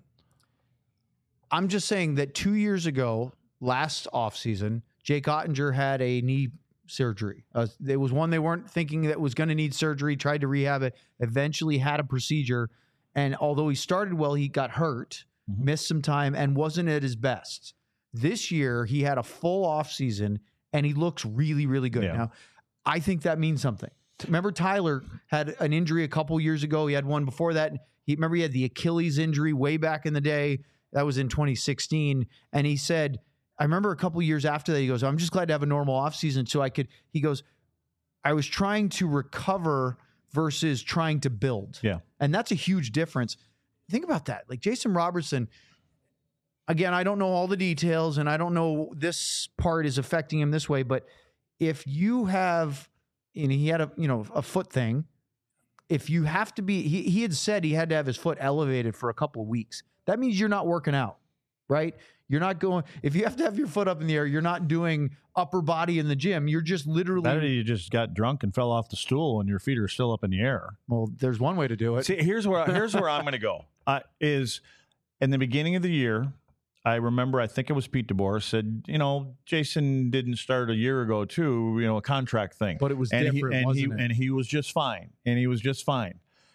I'm just saying that two years ago, last offseason, Jake Ottinger had a knee surgery. Uh, there was one they weren't thinking that was going to need surgery, tried to rehab it, eventually had a procedure. And although he started well, he got hurt, Mhm. missed some time, and wasn't at his best. This year, he had a full offseason, and he looks really, really good. Yeah. Now, I think that means something. Remember, Tyler had an injury a couple years ago. He had one before that. He remember he had the Achilles injury way back in the day. That was in twenty sixteen. And he said, I remember a couple years after that, he goes, I'm just glad to have a normal offseason so I could, he goes, I was trying to recover versus trying to build. Yeah. And that's a huge difference. Think about that. Like Jason Robertson, again, I don't know all the details and I don't know this part is affecting him this way, but if you have, and he had a, you know, a foot thing, if you have to be, he, he had said he had to have his foot elevated for a couple of weeks. That means you're not working out, right? You're not going, if you have to have your foot up in the air, you're not doing upper body in the gym. You're just literally. That or you just got drunk and fell off the stool and your feet are still up in the air. Well, there's one way to do it. See, here's where here's where I'm going to go. Uh, is in the beginning of the year, I remember I think it was Pete DeBoer said, you know, Jason didn't start a year ago too, you know, a contract thing, But it was and different, he, and wasn't he it? and he was just fine, and he was just fine.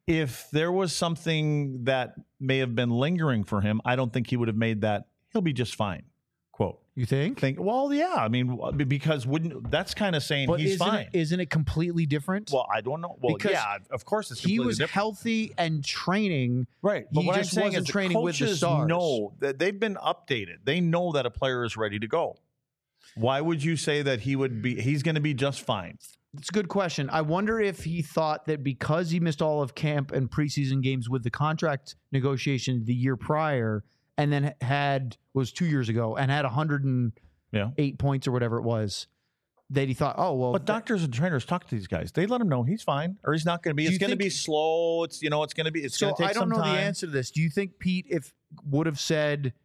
if there was something that may have been lingering for him, I don't think he would have made that. He'll be just fine. Quote. You think? Think. Well, yeah. I mean, because wouldn't that's kind of saying But he's isn't fine. It, isn't it completely different? Well, I don't know. Well, Because yeah, of course it's he completely was different. healthy and training. Right. But He what just I'm saying wasn't is training with the coaches stars. know that they've been updated. They know that a player is ready to go. Why would you say that he would be? He's going to be just fine. It's a good question. I wonder if he thought that because he missed all of camp and preseason games with the contract negotiation the year prior, and then had was two years ago and had one hundred eight Yeah. points or whatever it was, that he thought, oh well. But doctors and trainers talk to these guys. They let him know he's fine, or he's not going to be. Do It's you going to think- be slow. It's you know, it's going to be. It's so going to take I don't some know time. the answer to this. Do you think Pete, if would have said,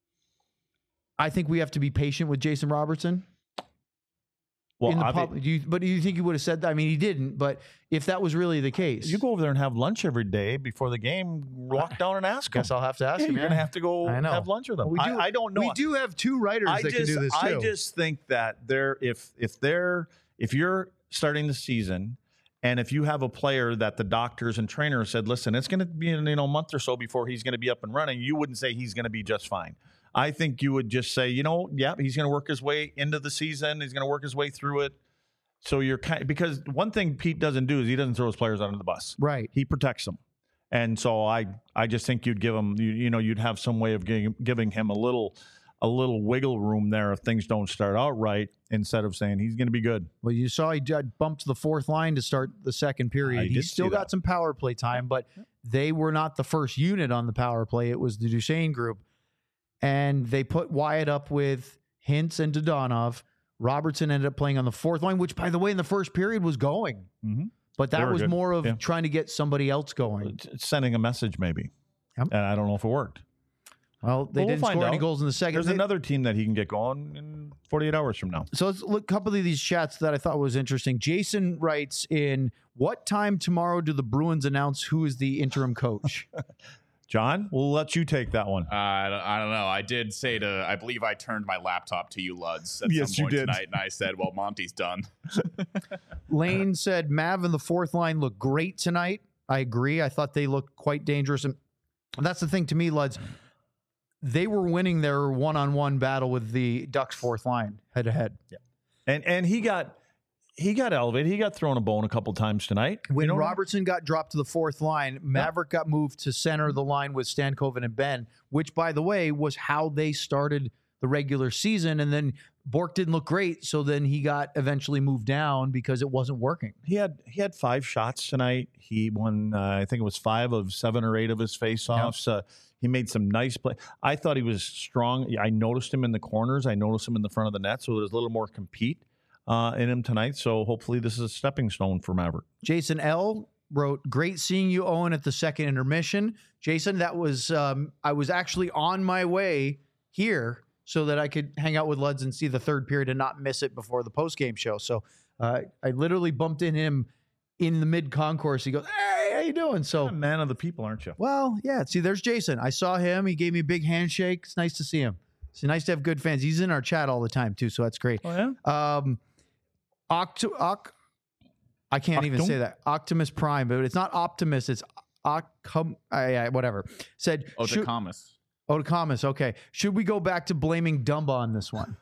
I think we have to be patient with Jason Robertson? Well, in the obvi- pub, do you, but do you think he would have said that? I mean, he didn't. But if that was really the case, you go over there and have lunch every day before the game. Walk down and ask him. guess I'll have to ask Yeah, him. you're yeah. going to have to go I know. have lunch with them. We do- I, I don't know. We do have two writers I that just, can do this too. I just think that they're if if they're if you're starting the season and if you have a player that the doctors and trainers said, listen, it's going to be in, you know, a month or so before he's going to be up and running, you wouldn't say he's going to be just fine. I think you would just say, you know, yeah, he's going to work his way into the season. He's going to work his way through it. So you're kind because one thing Pete doesn't do is he doesn't throw his players under the bus. right. He protects them. And so I, I just think you'd give him, you, you know, you'd have some way of giving, giving him a little, a little wiggle room there if things don't start out right, instead of saying he's going to be good. Well, you saw he j- bumped the fourth line to start the second period. I He did still see got that. some power play time, but they were not the first unit on the power play. It was the Duchesne group. And they put Wyatt up with Hintz and Dodonov. Robertson ended up playing on the fourth line, which, by the way, in the first period was going. Mm-hmm. But They that were was good. more of Yeah. trying to get somebody else going. It's, it's sending a message maybe. Yep. And I don't know if it worked. Well, they Well, we'll didn't find score any out. goals in the second. There's They- another team that he can get going in forty-eight hours from now. So let's look a couple of these chats that I thought was interesting. Jason writes in, what time tomorrow do the Bruins announce who is the interim coach? John, we'll let you take that one. Uh, I, don't, I don't know. I did say to, I believe I turned my laptop to you, Luds, at Yes, some you point did. tonight, and I said, well, Monty's done. Lane said Mav and the fourth line look great tonight. I agree. I thought they looked quite dangerous. And that's the thing to me, Luds. They were winning their one-on-one battle with the Ducks fourth line head to head. And and he got he got elevated. He got thrown a bone a couple times tonight. When You know, Robertson got dropped to the fourth line, Maverick got moved to center the line with Stankoven and Ben, which, by the way, was how they started the regular season. And then Bork didn't look great, so then he got eventually moved down because it wasn't working. he had he had five shots tonight. He won, uh, I think it was five of seven or eight of his faceoffs. Uh, he made some nice play. I thought he was strong. I noticed him in the corners. I noticed him in the front of the net. So there's a little more compete uh, in him tonight. So hopefully this is a stepping stone for Maverick. Jason L. wrote, great seeing you, Owen, at the second intermission. Jason, that was, um, I was actually on my way here so that I could hang out with Luds and see the third period and not miss it before the post-game show. So uh, I literally bumped in him in the mid-concourse. He goes, hey, how you doing? So, You're a man of the people, aren't you? well, yeah, see, there's Jason. I saw him. He gave me a big handshake. It's nice to see him. It's nice to have good fans. He's in our chat all the time, too, so that's great. Oh, yeah? Um, Octo, Oc, I can't even Octum? say that. Optimus Prime, but it's not Optimus. It's Ocum, uh, whatever. Said, Oh, should, the Comus. Otacomus, okay. Should we go back to blaming Dumba on this one?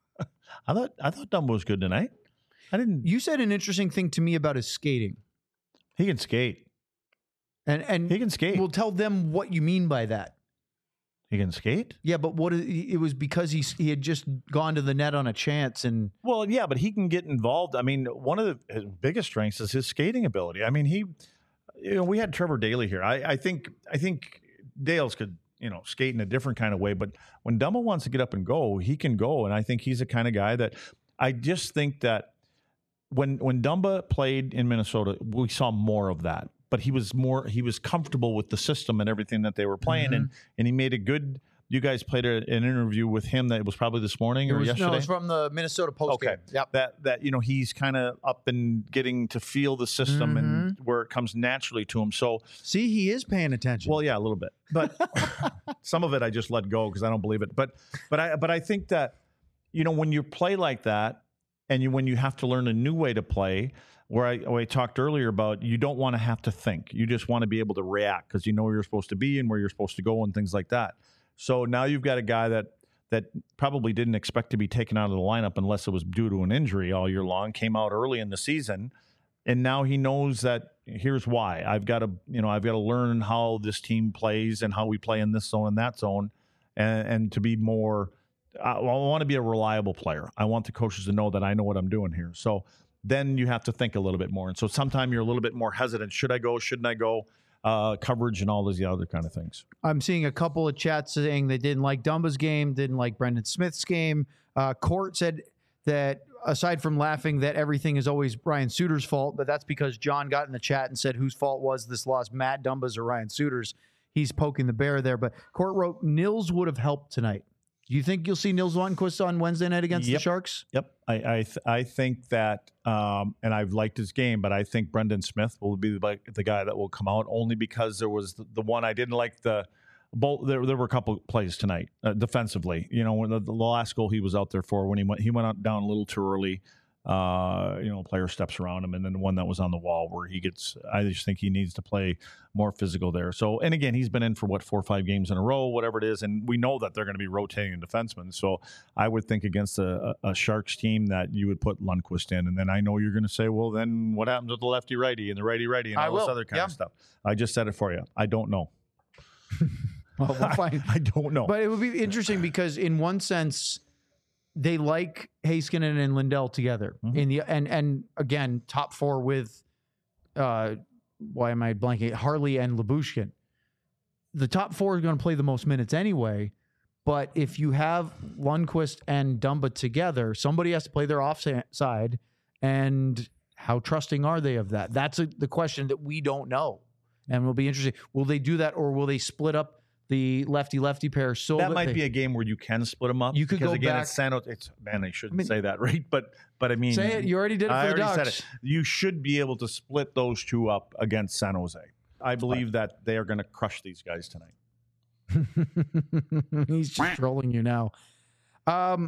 I thought I thought Dumbo was good tonight. I didn't. You said an interesting thing to me about his skating. He can skate. And and He can skate. we'll tell them what you mean by that. He can skate. Yeah, but what is, it was because he he had just gone to the net on a chance, and Well, yeah, but he can get involved. I mean, one of the, his biggest strengths is his skating ability. I mean, he, you know, we had Trevor Daley here. I, I think, I think Dales could, you know, skate in a different kind of way. But when Dumba wants to get up and go, he can go, and I think he's the kind of guy that I just think that when when Dumba played in Minnesota, we saw more of that. But he was more, he was comfortable with the system and everything that they were playing, Mm-hmm. and and he made a good. You guys played a, an interview with him that was probably this morning it or was, yesterday. no, it was from the Minnesota Post Okay. game. Yep. that that you know he's kind of up and getting to feel the system and Mm-hmm. where it comes naturally to him. So, See, he is paying attention. well, yeah, a little bit, but some of it I just let go because I don't believe it. But but I but I think that you know when you play like that and you when you have to learn a new way to play, where I, where I talked earlier about you don't want to have to think. You just want to be able to react because you know where you're supposed to be and where you're supposed to go and things like that. So now you've got a guy that that probably didn't expect to be taken out of the lineup unless it was due to an injury all year long, came out early in the season, and now he knows that here's why. I've got to, you know, I've got to learn how this team plays and how we play in this zone and that zone, and, and to be more, I, I want to be a reliable player. I want the coaches to know that I know what I'm doing here. So then you have to think a little bit more. And so sometimes you're a little bit more hesitant. Should I go? Shouldn't I go? Uh, coverage and all those other kind of things. I'm seeing a couple of chats saying they didn't like Dumba's game, didn't like Brendan Smith's game. Uh, Court said that aside from laughing that everything is always Ryan Suter's fault, but that's because John got in the chat and said whose fault was this loss, Matt Dumba's or Ryan Suter's. He's poking the bear there. But Court wrote, Nils would have helped tonight. Do you think you'll see Nils Lundqvist on Wednesday night against yep. the Sharks? Yep. I I, th- I think that, um, and I've liked his game, but I think Brendan Smith will be the, the guy that will come out only because there was the, the one I didn't like the both. There, there were a couple plays tonight uh, defensively. You know, when the, the last goal he was out there for when he went he went out down a little too early. Uh, you know, player steps around him, and then the one that was on the wall where he gets. I just think he needs to play more physical there. So, and again, he's been in for what four or five games in a row, whatever it is, and we know that they're going to be rotating defensemen. So, I would think against a, a Sharks team that you would put Lundqvist in, and then I know you're going to say, well, then what happens with the lefty righty and the righty righty and I all this will. other kind Yeah. of stuff? I just said it for you. I don't know. Well, we'll find. I don't know. But it would be interesting because in one sense, they like Heiskanen and Lindell together Mhm. in the and and again top four with uh why am I blanking Harley and Lyubushkin. The top four are going to play the most minutes anyway, but if you have Lundqvist and Dumba together, somebody has to play their offside, and how trusting are they of that? That's a, the question that we don't know, and will be interesting. Will they do that, or will they split up the lefty-lefty pair so that that might they, be a game where you can split them up. You could because go again, back- it's San Jose. It's man, I shouldn't I mean- say that, right? But but I mean, say it? You already did it for I the already Ducks. said it. You should be able to split those two up against San Jose. I believe that they are going to crush these guys tonight. He's just trolling you now. Um,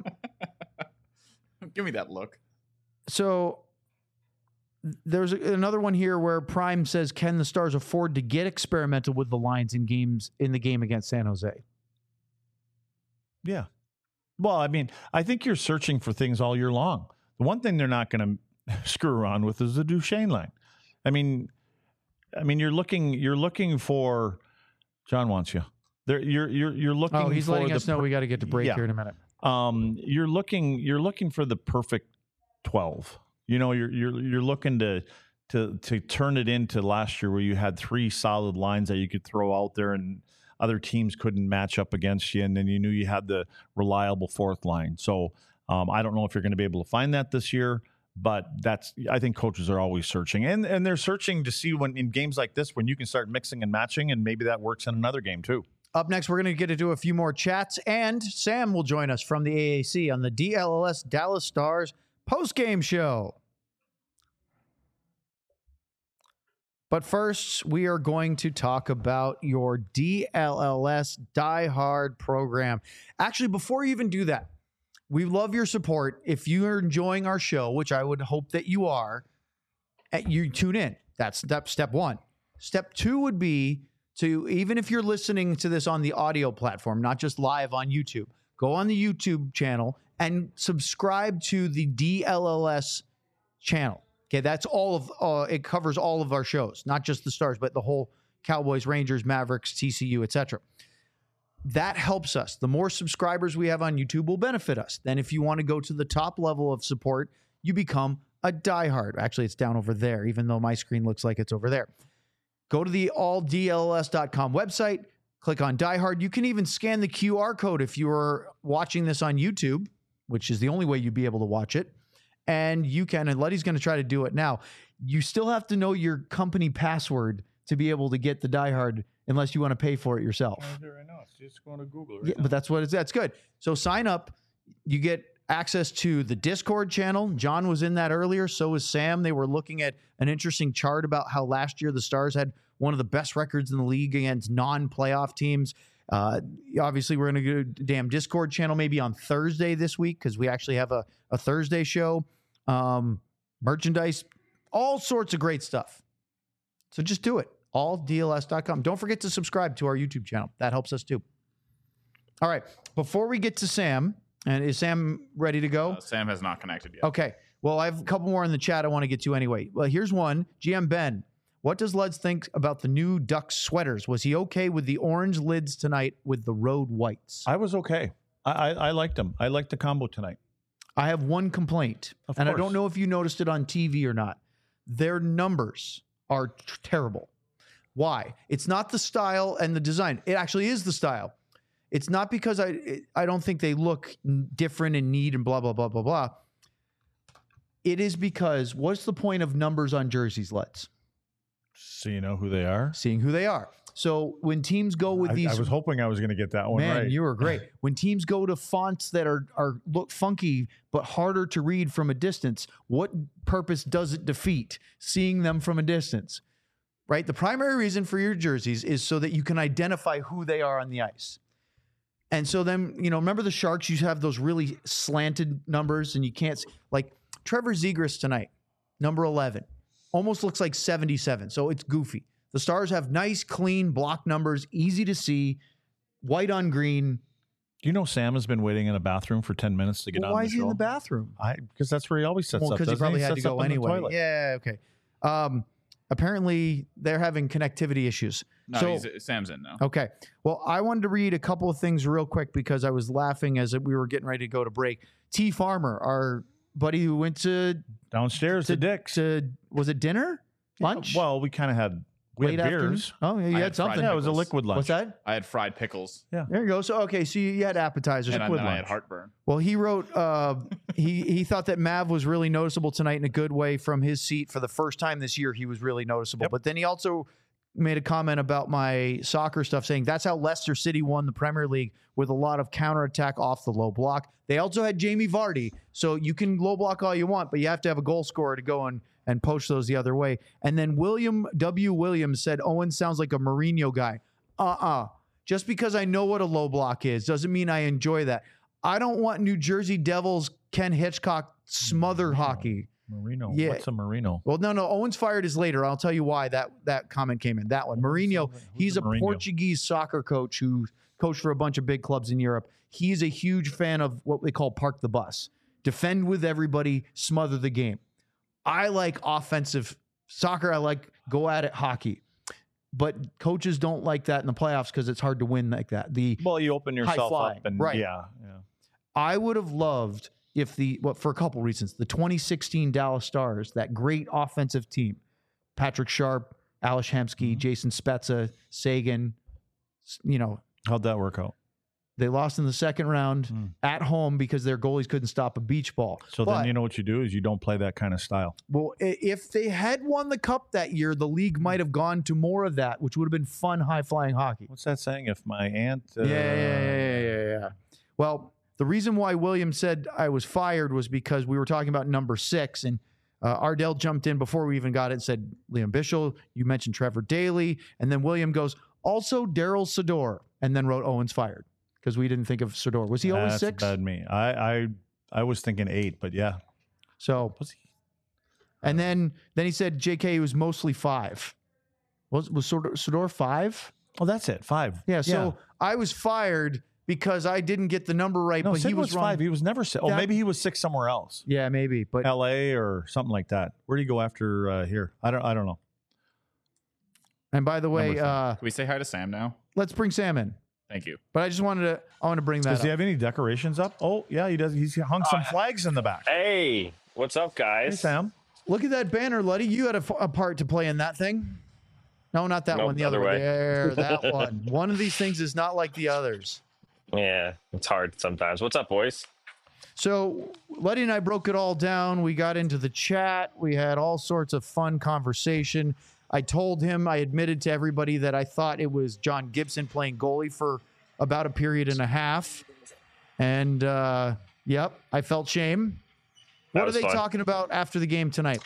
Give me that look. so there's a- another one here where Prime says, "Can the Stars afford to get experimental with the lines in games in the game against San Jose?" Yeah. Well, I mean, I think you're searching for things all year long. The one thing they're not going to screw around with is the Duchesne line. I mean, I mean, you're looking, you're looking for. John wants you. There, you're you're you're looking. Oh, he's for letting the us know per- we got to get to break Yeah. here in a minute. um, you're looking you're looking for the perfect twelve. You know, you're you're you're looking to to to turn it into last year where you had three solid lines that you could throw out there and other teams couldn't match up against you, and then you knew you had the reliable fourth line. So um, I don't know if you're going to be able to find that this year, but that's I think coaches are always searching, and and they're searching to see when in games like this when you can start mixing and matching, and maybe that works in another game too. Up next, we're going to get to do a few more chats, and Sam will join us from the A A C on the D L L S Dallas Stars post-game show. But first, we are going to talk about your D L L S Die Hard program. Actually, before you even do that, we love your support. If you are enjoying our show, which I would hope that you are, eh, you tune in. That's step, step one. Step two would be to, even if you're listening to this on the audio platform, not just live on YouTube, go on the YouTube channel and subscribe to the D L L S channel. Okay, that's all of, uh, it covers all of our shows, not just the Stars, but the whole Cowboys, Rangers, Mavericks, T C U, et cetera. That helps us. The more subscribers we have on YouTube will benefit us. Then if you want to go to the top level of support, you become a diehard. Actually, it's down over there, even though my screen looks like it's over there. Go to the all D L L S dot com website, click on diehard. You can even scan the Q R code if you are watching this on YouTube, which is the only way you'd be able to watch it. And you can, and Letty's going to try to do it now. You still have to know your company password to be able to get the diehard unless you want to pay for it yourself. Right now, it's just going to Google. Yeah, but that's what it's, that's good. So sign up. You get access to the Discord channel. John was in that earlier. So was Sam. They were looking at an interesting chart about how last year the Stars had one of the best records in the league against non-playoff teams. Uh, obviously, we're going to go to damn Discord channel maybe on Thursday this week because we actually have a, a Thursday show. Um, merchandise all sorts of great stuff. So just do it. all D L S dot com. Don't forget to subscribe to our YouTube channel. That helps us too. All right. Before we get to Sam, and is Sam ready to go? Uh, Sam has not connected yet. Okay. Well, I have a couple more in the chat I want to get to anyway. Well, here's one. G M Ben, what does Luds think about the new Ducks sweaters? Was he okay with the orange lids tonight with the road whites? I was okay. I, I, I liked them. I liked the combo tonight. I have one complaint, Of and I course. don't know if you noticed it on T V or not. Their numbers are t- terrible. Why? It's not the style and the design. It actually is the style. It's not because I it, I don't think they look n- different and neat and blah, blah, blah, blah, blah. It is because what's the point of numbers on jerseys, Let's? So you know who they are? Seeing who they are. So when teams go with I, these, I was hoping I was going to get that one man, right. you were great. When teams go to fonts that are are look funky but harder to read from a distance, what purpose does it defeat? Seeing them from a distance, right? The primary reason for your jerseys is so that you can identify who they are on the ice. And so then, you know, remember the Sharks? You have those really slanted numbers, and you can't s- like Trevor Zegras tonight, number eleven, almost looks like seventy-seven. So it's goofy. The Stars have nice, clean block numbers, easy to see, white on green. Do you know Sam has been waiting in a bathroom for ten minutes to get Well, on why the is he show? in the bathroom? I because that's where he always sets Well, up. because he doesn't probably had to Sets up go in the anyway. toilet. Yeah, okay. Um, apparently, they're having connectivity issues. No, so, he's, Sam's in now. okay. Well, I wanted to read a couple of things real quick because I was laughing as we were getting ready to go to break. T. Farmer, our buddy who went to, Downstairs, to the dicks. to was it dinner? Lunch? Well, we kind of had we Late had afternoon? beers. Oh, yeah, you I had had something. fried Yeah, it was a pickles. liquid lunch. What's that? I had fried pickles, There you go. So, okay, so you, you had appetizers, and, I, liquid and I lunch. had heartburn. Well, he wrote uh, he he thought that Mav was really noticeable tonight in a good way from his seat. For the first time this year, he was really noticeable. Yep. But then he also made a comment about my soccer stuff, saying that's how Leicester City won the Premier League with a lot of counterattack off the low block. They also had Jamie Vardy, so you can low block all you want, but you have to have a goal scorer to go and and poach those the other way. And then William W. Williams said Owen sounds like a Mourinho guy. Uh-uh. Just because I know what a low block is doesn't mean I enjoy that. I don't want New Jersey Devils Ken Hitchcock smother hockey. Marino. Yeah. What's a Marino? Well, no, no. Owens fired is later. I'll tell you why that, that comment came in. That one. Mourinho, Who's he's a Mourinho? Portuguese soccer coach who coached for a bunch of big clubs in Europe. He's a huge fan of what they call park the bus. Defend with everybody, smother the game. I like offensive soccer. I like go at it hockey. But coaches don't like that in the playoffs because it's hard to win like that. The Well, you open yourself flying, up and right. yeah, yeah. I would have loved if the, well, for a couple reasons, the twenty sixteen Dallas Stars, that great offensive team, Patrick Sharp, Alish Hemsky, Jason Spezza, Sagan, s- you know, How'd that work out? they lost in the second round Hmm. at home because their goalies couldn't stop a beach ball. So But- then you know what you do is you don't play that kind of style. Well, i- if they had won the cup that year, the league might have gone to more of that, which would have been fun, high flying hockey. What's that saying? If my aunt, uh, Yeah, yeah, yeah, yeah, yeah, yeah. Well, the reason why William said I was fired was because we were talking about number six, and uh, Ardell jumped in before we even got it and said, Liam Bischel, you mentioned Trevor Daley, and then William goes, also Daryl Sador, and then wrote Owens fired because we didn't think of Sador. Was he always that's six? bad me. I, I I was thinking eight, but yeah. So, Was he? and then then he said J K was mostly five. Was was Sador, Sador five? Oh, that's it. Five. Yeah. So I was fired because I didn't get the number right, no, but Sid he was, was wrong. five. He was never six. Oh, That- maybe he was six somewhere else. Yeah, maybe, but L A or something like that. Where do you go after uh, here? I don't. I don't know. and by the way, Number five. uh, Can we say hi to Sam now? let's bring Sam in. Thank you. But I just wanted to, I want to bring that Does he up. have any decorations up? Oh, yeah, he does. He's hung some flags in the back. Hey, what's up, guys? Hey, Sam. Look at that banner, Luddy. You had a, f- a part to play in that thing. No, not that Nope, one. The the other other one. way. There, that one. One of these things is not like the others. Yeah, it's hard sometimes. What's up, boys? So Luddy and I broke it all down. We got into the chat. We had all sorts of fun conversation. I told him, I admitted to everybody that I thought it was John Gibson playing goalie for about a period and a half. And, uh, yep, I felt shame. That What are was they fun. talking about after the game tonight?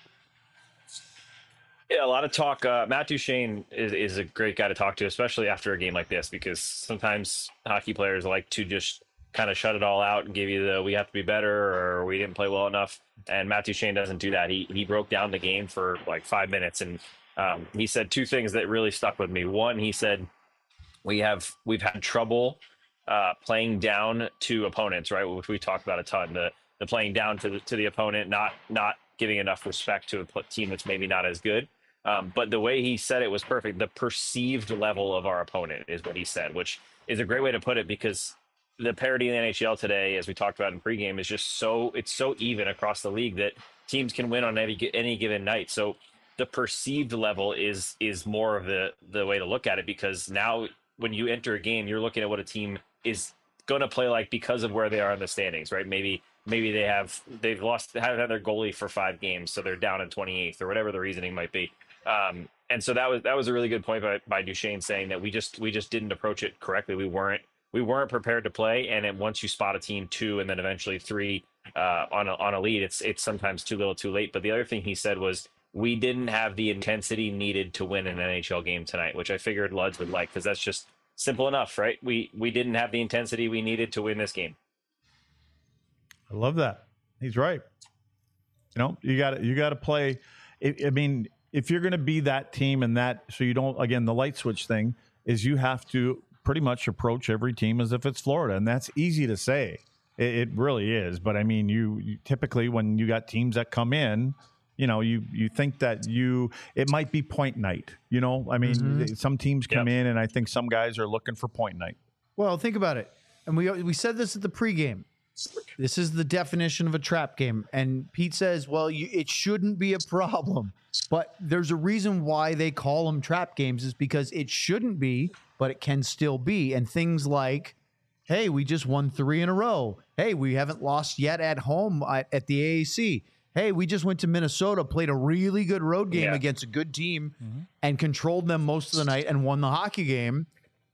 Yeah, a lot of talk. Uh, Matt Duchene is, is a great guy to talk to, especially after a game like this, because sometimes hockey players like to just kind of shut it all out and give you the we have to be better or we didn't play well enough. And Matt Duchene doesn't do that. He he broke down the game for like five minutes and um, he said two things that really stuck with me. One, he said we have we've had trouble uh, playing down to opponents, right? Which we talked about a ton. The the playing down to the to the opponent, not not giving enough respect to a team that's maybe not as good. Um, but the way he said it was perfect. The perceived level of our opponent is what he said, which is a great way to put it because the parity in the N H L today, as we talked about in pregame, is just so it's so even across the league that teams can win on any any given night. So the perceived level is is more of the the way to look at it because now when you enter a game, you're looking at what a team is going to play like because of where they are in the standings, right? Maybe maybe they have they've lost haven't had their goalie for five games, so they're down in twenty-eighth or whatever the reasoning might be. Um, and so that was that was a really good point by, by Duchene saying that we just we just didn't approach it correctly. We weren't we weren't prepared to play. And then once you spot a team two and then eventually three uh, on a, on a lead, it's it's sometimes too little, too late. But the other thing he said was we didn't have the intensity needed to win an N H L game tonight, which I figured Luds would like because that's just simple enough, right? We we didn't have the intensity we needed to win this game. I love that. He's right. You know, you got you got to play. I, I mean, if you're going to be that team and that, so you don't, again, the light switch thing is you have to pretty much approach every team as if it's Florida. And that's easy to say. It, it really is. But I mean, you, you typically, when you got teams that come in, you know, you, you think that you, it might be point night, you know, I mean, mm-hmm. some teams come yep. in and I think some guys are looking for point night. Well, think about it. And we, we said this at the pregame. This is the definition of a trap game. And Pete says, well, you, it shouldn't be a problem. But there's a reason why they call them trap games is because it shouldn't be, but it can still be. And things like, hey, we just won three in a row. Hey, we haven't lost yet at home at, at the A A C. Hey, we just went to Minnesota, played a really good road game yeah. against a good team mm-hmm. and controlled them most of the night and won the hockey game.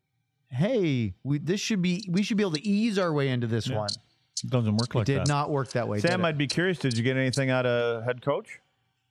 Hey, we this should be we should be able to ease our way into this yeah. one. It doesn't work like that. It did that. not work that way. Sam, I'd be curious, did you get anything out of head coach?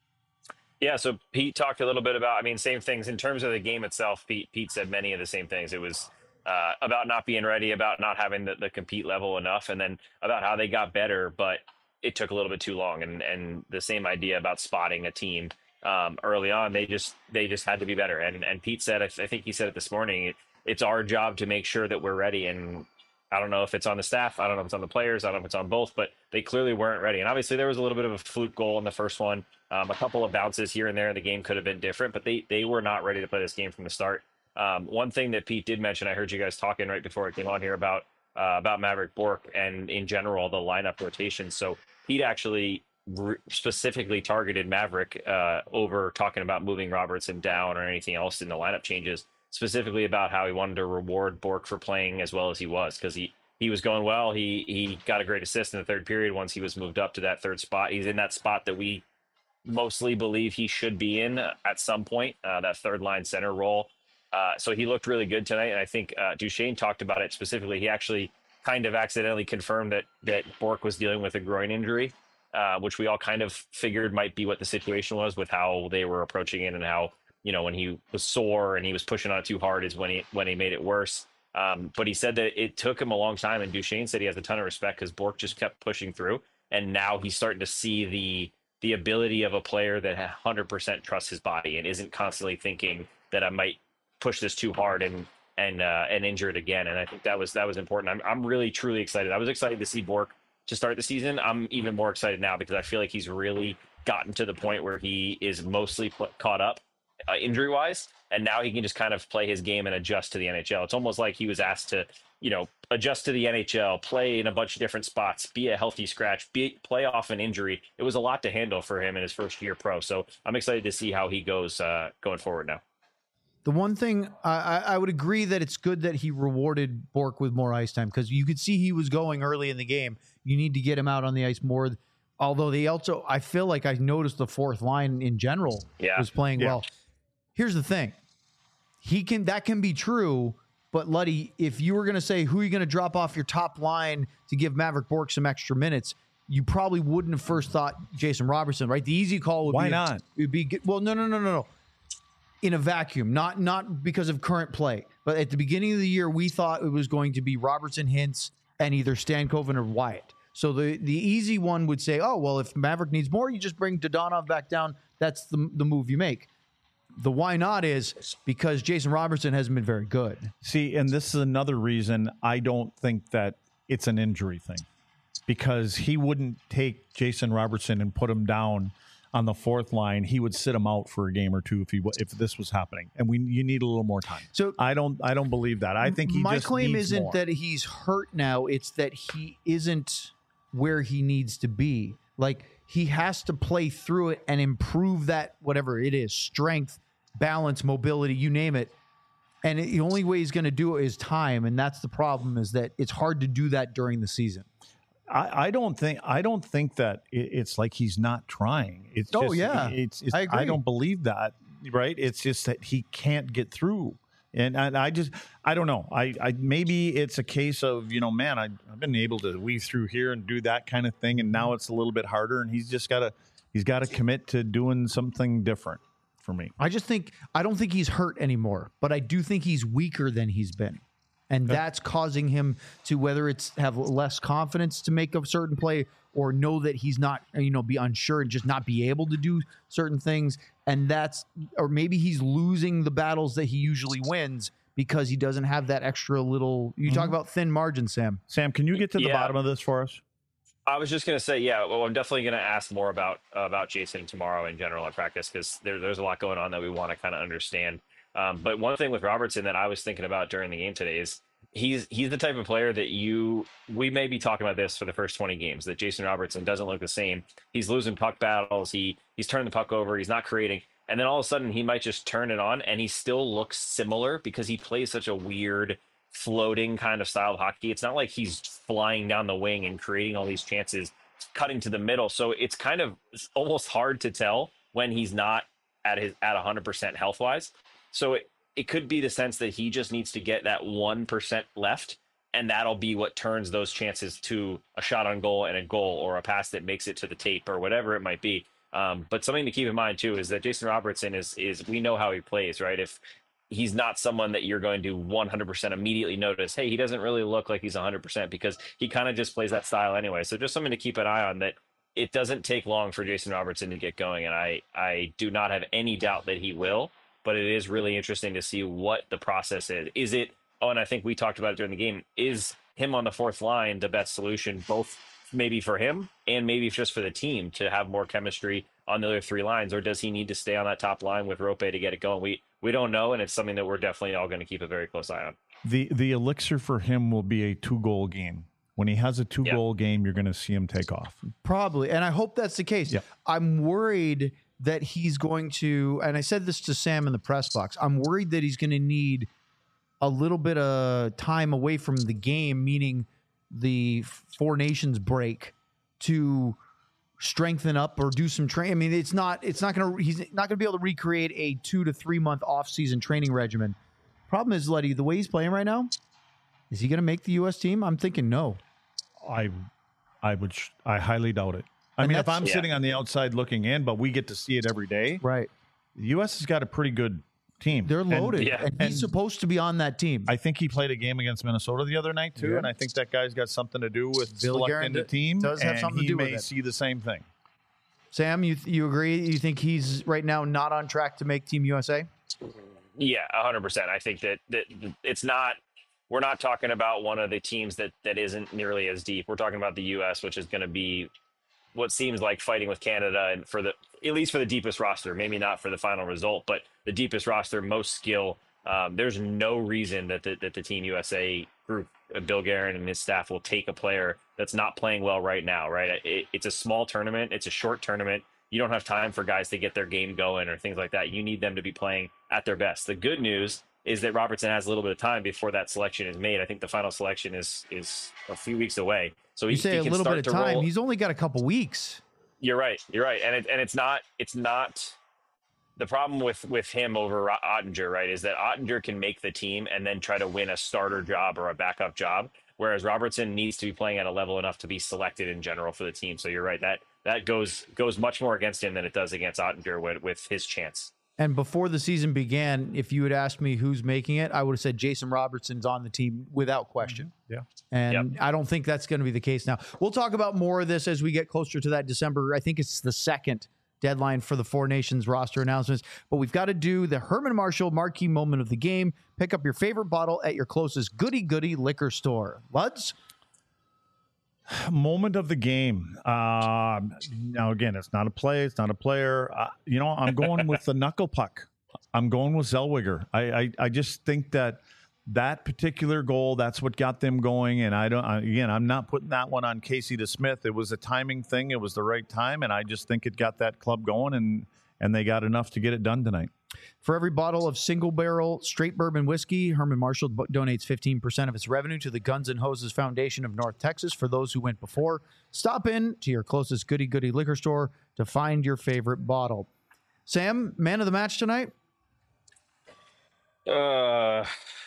Yeah, so Pete talked a little bit about, I mean, same things in terms of the game itself. Pete Pete said many of the same things. It was uh, about not being ready, about not having the, the compete level enough, and then about how they got better, but it took a little bit too long. And and the same idea about spotting a team um, early on, they just they just had to be better. And and Pete said, I, th- I think he said it this morning, it, it's our job to make sure that we're ready. And I don't know if it's on the staff, I don't know if it's on the players, I don't know if it's on both, but they clearly weren't ready. And obviously there was a little bit of a fluke goal in the first one. Um, a couple of bounces here and there in the game could have been different, but they they were not ready to play this game from the start. Um, one thing that Pete did mention, I heard you guys talking right before I came on here about uh, about Maverick Bourque and in general the lineup rotation. So Pete actually re- specifically targeted Maverick uh, over talking about moving Robertson down or anything else in the lineup changes, specifically about how he wanted to reward Bourque for playing as well as he was because he he was going well. He he got a great assist in the third period once he was moved up to that third spot. He's in that spot that we mostly believe he should be in at some point, uh, that third line center role. Uh, so he looked really good tonight. And I think uh, Duchene talked about it specifically. He actually kind of accidentally confirmed that, that Bourque was dealing with a groin injury, uh, which we all kind of figured might be what the situation was with how they were approaching it and how, you know, when he was sore and he was pushing on it too hard is when he, when he made it worse. Um, but he said that it took him a long time. And Duchene said he has a ton of respect because Bourque just kept pushing through. And now he's starting to see the, the ability of a player that one hundred percent trusts his body and isn't constantly thinking that I might push this too hard and and uh, and injure it again. And I think that was that was important. I'm I'm really truly excited. I was excited to see Bourque to start the season. I'm even more excited now because I feel like he's really gotten to the point where he is mostly pl- caught up uh, injury wise, and now he can just kind of play his game and adjust to the N H L. It's almost like he was asked to, you know, adjust to the N H L, play in a bunch of different spots, be a healthy scratch, be play off an injury. It was a lot to handle for him in his first year pro. So I'm excited to see how he goes uh, going forward now. The one thing I, I would agree that it's good that he rewarded Bourque with more ice time because you could see he was going early in the game. You need to get him out on the ice more. Although they also, I feel like I noticed the fourth line in general yeah. was playing yeah. well. Here's the thing. He can, that can be true. But Luddy, if you were going to say who are you going to drop off your top line to give Maverick Bourque some extra minutes, you probably wouldn't have first thought Jason Robertson, right? The easy call would Why be not? It would be well, no, no, no, no, no. In a vacuum, not not because of current play, but at the beginning of the year, we thought it was going to be Robertson, Hintz, and either Stankoven or Wyatt. So the the easy one would say, oh, well, if Maverick needs more, you just bring Dodonov back down. That's the, the move you make. The why not is because Jason Robertson hasn't been very good. See, and this is another reason I don't think that it's an injury thing, because he wouldn't take Jason Robertson and put him down on the fourth line. He would sit him out for a game or two if he if this was happening, and we you need a little more time. So I don't I don't believe that. I think he my just claim needs isn't more. that he's hurt now. It's that he isn't where he needs to be. Like, he has to play through it and improve that, whatever it is, strength, balance, mobility, you name it. And it, the only way he's going to do it is time. And that's the problem, is that it's hard to do that during the season. I, I don't think I don't think that it, it's like he's not trying. It's Oh, just, yeah. It's, it's I agree. I don't believe that. Right? It's just that he can't get through. And, and I just, I don't know. I, I maybe it's a case of, you know, man, I, I've been able to weave through here and do that kind of thing, and now it's a little bit harder. And he's just got to, he's got to commit to doing something different for me. I just think, I don't think he's hurt anymore, but I do think he's weaker than he's been. And that's causing him to, whether it's have less confidence to make a certain play or know that he's not, you know, be unsure and just not be able to do certain things. And that's, or maybe he's losing the battles that he usually wins because he doesn't have that extra little, you talk about thin margin, Sam. Sam, can you get to the Yeah. bottom of this for us? I was just gonna say, yeah. Well, I'm definitely gonna ask more about uh, about Jason tomorrow in general at practice, because there, there's a lot going on that we want to kind of understand. Um, but one thing with Robertson that I was thinking about during the game today is he's he's the type of player that you we may be talking about this for the first twenty games, that Jason Robertson doesn't look the same. He's losing puck battles. He he's turning the puck over. He's not creating. And then all of a sudden he might just turn it on and he still looks similar because he plays such a weird floating kind of style of hockey. It's not like he's flying down the wing and creating all these chances, cutting to the middle. So it's kind of it's almost hard to tell when he's not at his at one hundred percent health wise. So it, it could be the sense that he just needs to get that one percent left, and that'll be what turns those chances to a shot on goal and a goal, or a pass that makes it to the tape, or whatever it might be. Um, but something to keep in mind too is that Jason Robertson is is we know how he plays, right? If he's not someone that you're going to one hundred percent immediately notice, hey, he doesn't really look like he's one hundred percent, because he kind of just plays that style anyway. So just something to keep an eye on, that it doesn't take long for Jason Robertson to get going, and I I do not have any doubt that he will. But it is really interesting to see what the process is. Is it, oh, and I think we talked about it during the game, is him on the fourth line the best solution, both maybe for him and maybe just for the team to have more chemistry on the other three lines? Or does he need to stay on that top line with Rope to get it going? We we don't know, and it's something that we're definitely all going to keep a very close eye on. The the elixir for him will be a two-goal game. When he has a two-goal Yeah. game, you're going to see him take off. Probably. And I hope that's the case. Yeah. I'm worried that he's going to, and I said this to Sam in the press box, I'm worried that he's going to need a little bit of time away from the game, meaning the Four Nations break, to strengthen up or do some training. I mean, it's not, it's not going to, he's not going to be able to recreate a two to three month off-season training regimen. Problem is, Letty, the way he's playing right now, is he going to make the U S team? I'm thinking no. I I would sh- I highly doubt it. I And mean, if that's- I'm Yeah. sitting on the outside looking in, but we get to see it every day, Right. the U S has got a pretty good team. They're And loaded. Yeah. And he's supposed to be on that team. I think he played a game against Minnesota the other night too, Yeah. and I think that guy's got something to do with Bill selecting Guerin the team. does have and something to he do with may it. see the same thing. Sam, you you agree? You think he's right now not on track to make Team U S A? Yeah, one hundred percent. I think that, that it's not, we're not talking about one of the teams that, that isn't nearly as deep. We're talking about the U S, which is going to be what seems like fighting with Canada, and for the, at least for the deepest roster, maybe not for the final result, but the deepest roster, most skill. Um, there's no reason that the, that the Team U S A group, uh, Bill Guerin and his staff, will take a player that's not playing well right now, right? It, it's a small tournament. It's a short tournament. You don't have time for guys to get their game going or things like that. You need them to be playing at their best. The good news is that Robertson has a little bit of time before that selection is made. I think the final selection is is a few weeks away. So You he, say he a can little start bit of to time. roll. He's only got a couple weeks. You're right. You're right. And it, and it's not it's not the problem with with him over Ottinger, right? Is that Ottinger can make the team and then try to win a starter job or a backup job, whereas Robertson needs to be playing at a level enough to be selected in general for the team. So you're right. That that goes goes much more against him than it does against Ottinger with, with his chance. And before the season began, if you had asked me who's making it, I would have said Jason Robertson's on the team without question. Yeah. And I don't think that's going to be the case now. We'll talk about more of this as we get closer to that December. I think it's the second deadline for the Four Nations roster announcements. But we've got to do the Herman Marshall marquee moment of the game. Pick up your favorite bottle at your closest goody goody liquor store. Luds? Moment of the game. Um, now, again, it's not a play. It's not a player. Uh, you know, I'm going with the knuckle puck. I'm going with Zellweger. I, I, I just think that that particular goal, that's what got them going. And I don't, I, again, I'm not putting that one on Casey DeSmith. It was a timing thing. It was the right time. And I just think it got that club going, and, and they got enough to get it done tonight. For every bottle of single barrel straight bourbon whiskey, Herman Marshall donates fifteen percent of its revenue to the Guns N' Hoses Foundation of North Texas. For those who went before, stop in to your closest goody goody liquor store to find your favorite bottle. Sam, man of the match tonight? Uh,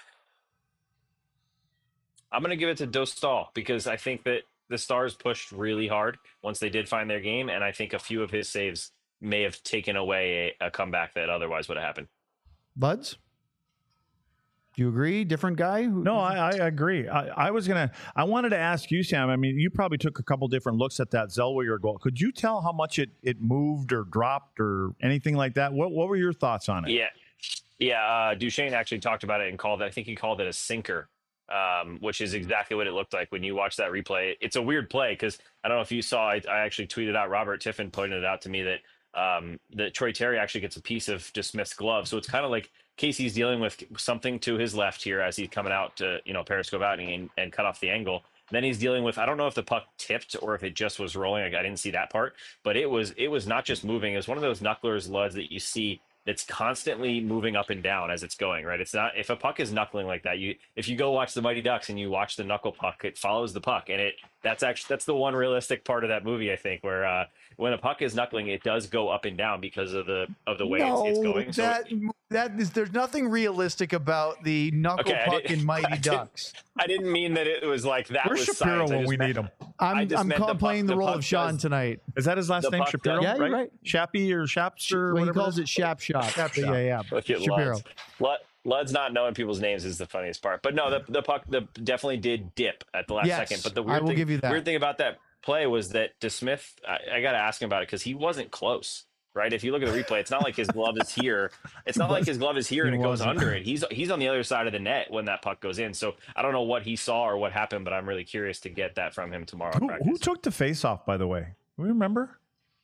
I'm going to give it to Dostal because I think that the Stars pushed really hard once they did find their game, and I think a few of his saves may have taken away a, a comeback that otherwise would have happened. Buds? Do you agree? Different guy? Who, No, I, I agree. I, I was going to, I wanted to ask you, Sam. I mean, you probably took a couple different looks at that Zellweger goal. Could you tell how much it, it moved or dropped or anything like that? What, what were your thoughts on it? Yeah. Yeah. Uh, Duchesne actually talked about it and called it, I think he called it a sinker, um, which is exactly what it looked like when you watch that replay. It's a weird play because I don't know if you saw, I, I actually tweeted out, Robert Tiffin pointed it out to me that um, that Troy Terry actually gets a piece of DeSmith's glove. So it's kind of like Casey's dealing with something to his left here as he's coming out to, you know, periscope out and, and cut off the angle. And then he's dealing with, I don't know if the puck tipped or if it just was rolling. Like, I didn't see that part, but it was, it was not just moving. It was one of those knucklers, Luds, that you see that's constantly moving up and down as it's going, right? It's not, if a puck is knuckling like that, you, if you go watch the Mighty Ducks and you watch the knuckle puck, it follows the puck. And it, that's actually, that's the one realistic part of that movie, I think, where, uh, when a puck is knuckling, it does go up and down because of the, of the way no, it's, it's going. So that, it, that is, there's nothing realistic about the knuckle Okay, I puck didn't- in Mighty I didn't- Ducks. I didn't mean that it was like that. Where's was Shapiro science. I when just we meant- need him? I I'm, just I'm meant call, the playing puck- the the role puck of Sean does- tonight. Is that his last The name? puck Shapiro, does- Yeah, you're right? right. Shappy or Shaps or Well, he whatever calls it it is? Shap Shop. Shap Yeah, Shop. yeah. Look at Shapiro. Luds. Lud- Lud's not knowing people's names is the funniest part. But no, the, the puck the, definitely did dip at the last Yes, second. But the I weird will thing, give you that. weird thing about that play was that DeSmith, I, I got to ask him about it because he wasn't close. Right, if you look at the replay, it's not like his glove is here. It's not like his glove is here and it goes wasn't. under it. He's he's on the other side of the net when that puck goes in. So I don't know what he saw or what happened, but I'm really curious to get that from him tomorrow. Who, in who practice. took the face off, by the way? Do we remember?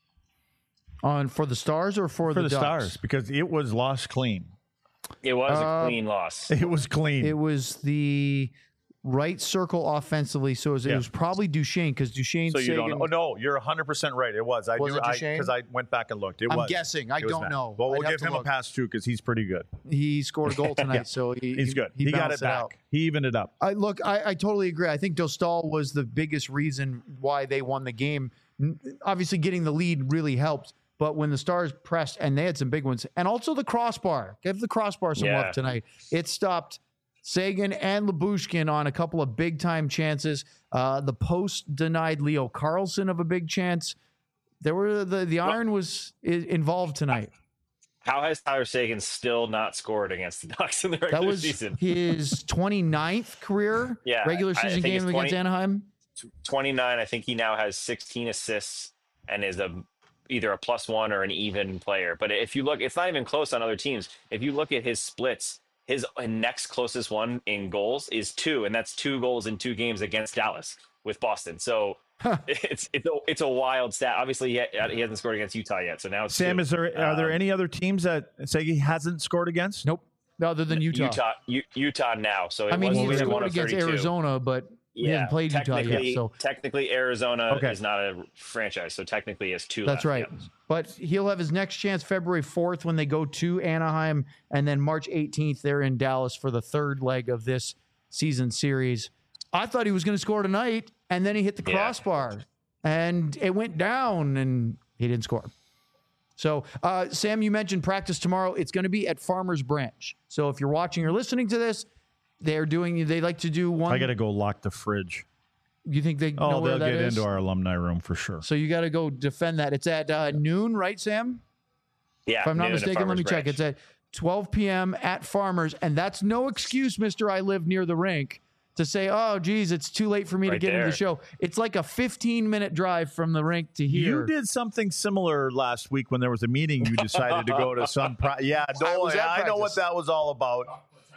On for the Stars or for, For the, Ducks? Stars, because it was lost clean. It was Uh, a clean loss. It was clean. It was the right circle offensively, so it was, it Yeah. was probably Duchesne because Duchesne. so you Sagan, don't. Oh no, you're one hundred percent right. It was. I Was do. it I Duchesne? because I went back and looked. It I'm was. guessing. I It was don't Matt. know. Well, we'll I'd have give to him a look. pass too because he's pretty good. He scored a goal tonight, Yeah. so he, He's good. He, got balanced it back. out. He evened it up. I look, I, I totally agree. I think Dostal was the biggest reason why they won the game. N- Obviously, getting the lead really helped, but when the Stars pressed, and they had some big ones, and also the crossbar, give the crossbar some Yeah. love tonight. It stopped Sagan and Lyubushkin on a couple of big time chances. Uh, the post denied Leo Carlson of a big chance. There were the the iron was i- involved tonight. How has Tyler Sagan still not scored against the Ducks in the regular That was season? his twenty-ninth career Yeah, regular I season think game it's against twenty Anaheim. twenty-nine. I think he now has sixteen assists and is a either a plus one or an even player. But if you look, it's not even close on other teams. If you look at his splits, his next closest one in goals is two, and that's two goals in two games against Dallas with Boston. So it's it's a, it's a wild stat. Obviously, he, ha- he hasn't scored against Utah yet. So now it's Sam, two. is there are there Um, any other teams that Segi hasn't scored against? Nope. Other than Utah. Utah U, Utah now. So it I mean, was he thirty-one scored of against thirty-two. Arizona, but he Yeah, hasn't played Utah technically, yet. So technically Arizona Okay. is not a franchise, so technically it's two. that's left, right. yeah. But he'll have his next chance February fourth when they go to Anaheim, and then March eighteenth they're in Dallas for the third leg of this season series. I thought he was going to score tonight, and then he hit the Yeah. crossbar, and it went down, and he didn't score. So, uh, Sam, you mentioned practice tomorrow. It's going to be at Farmers Branch. So if you're watching or listening to this, they're doing. They like to do one. I got to go lock the fridge. You think they know Oh, where they'll that get is? into our alumni room for sure. So you got to go defend that. It's at uh, noon, right, Sam? Yeah, If I'm not noon at mistaken, let me Farmers check. Branch. It's at twelve p.m. at Farmers, and that's no excuse, Mister I live near the rink, to say, oh, geez, it's too late for me to Right get into there. the show. It's like a fifteen minute drive from the rink to here. You did something similar last week when there was a meeting. You decided to go to some. Pri- yeah, don't was worry, at I know what practice. that was all about.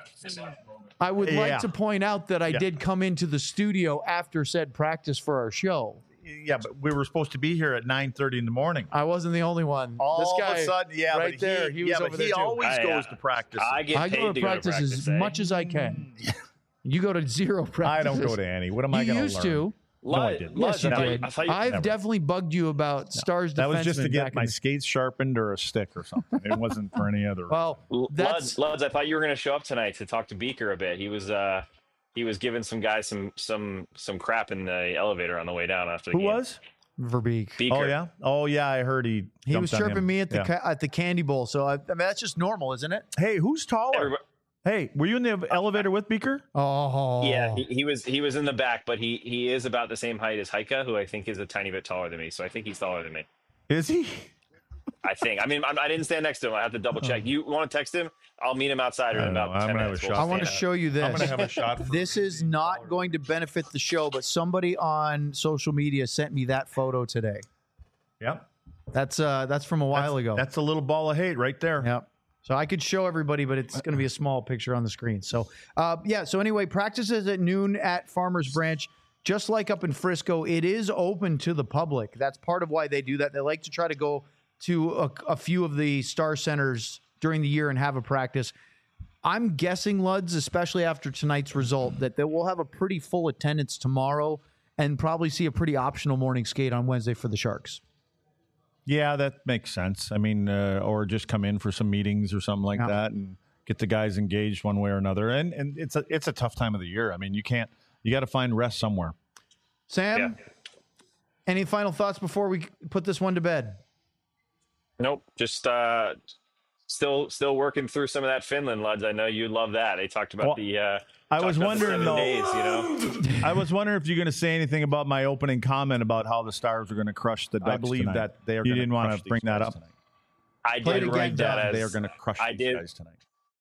I would Yeah. like to point out that I Yeah. did come into the studio after said practice for our show. Yeah, but we were supposed to be here at nine thirty in the morning. I wasn't the only one. All this guy of a sudden, yeah, right but there, he, he was yeah, over but there he too. always Oh, I, goes uh, to practice. I get I paid go to to practice, go to practice as eh? much as I can. You go to zero practice. I don't go to any. What am I You going to used learn? to. No, I Lud- didn't. Lud, Yes, you I thought- did. I thought you- I've Never. definitely bugged you about Stars That was just to defensemen get back my in the- skates sharpened or a stick or something. It wasn't for any other. Well, that's Luds, Luds, I thought you were going to show up tonight to talk to Beaker a bit. He was uh, he was giving some guys some some some crap in the elevator on the way down after the who game. was? Verbeek. Beaker? Oh yeah, oh yeah. I heard he. He jumped was on chirping him. me at the Yeah. ca- at the candy bowl. So I, I mean, that's just normal, isn't it? Hey, who's taller? Everybody- Hey, were you in the elevator with Beaker? Oh, Yeah, he, he was he was in the back, but he he is about the same height as Heika, who I think is a tiny bit taller than me. So I think he's taller than me. Is he? I think. I mean, I'm, I didn't stand next to him. I have to double check. You want to text him? I'll meet him outside I in don't know. about I'm ten gonna have minutes. a We'll shot. I want to stand show you this. I'm gonna have a shot. For This is not going to benefit the show, but somebody on social media sent me that photo today. yeah. That's uh that's from a while That's, ago. that's a little ball of hate right there. Yep. So I could show everybody, but it's going to be a small picture on the screen. So, uh, yeah. So anyway, practice is at noon at Farmers Branch. Just like up in Frisco, it is open to the public. That's part of why they do that. They like to try to go to a, a few of the Star Centers during the year and have a practice. I'm guessing, Luds, especially after tonight's result, that they will have a pretty full attendance tomorrow and probably see a pretty optional morning skate on Wednesday for the Sharks. Yeah, that makes sense. I mean, uh, or just come in for some meetings or something like Yeah. that, and get the guys engaged one way or another. And and it's a it's a tough time of the year. I mean, you can't you got to find rest somewhere. Sam, Yeah. any final thoughts before we put this one to bed? Nope. Just uh, still still working through some of that Finland, Luds. I know you love that. They talked about Well, the. Uh, I talked was about the wondering seven though. days, you know. I was wondering if you're going to say anything about my opening comment about how the Stars are going to crush the Ducks I believe tonight. that they are. You gonna didn't want crush to bring these that guys up. tonight. I Play it did again, write that Dom. as They are going to crush I these did. guys tonight.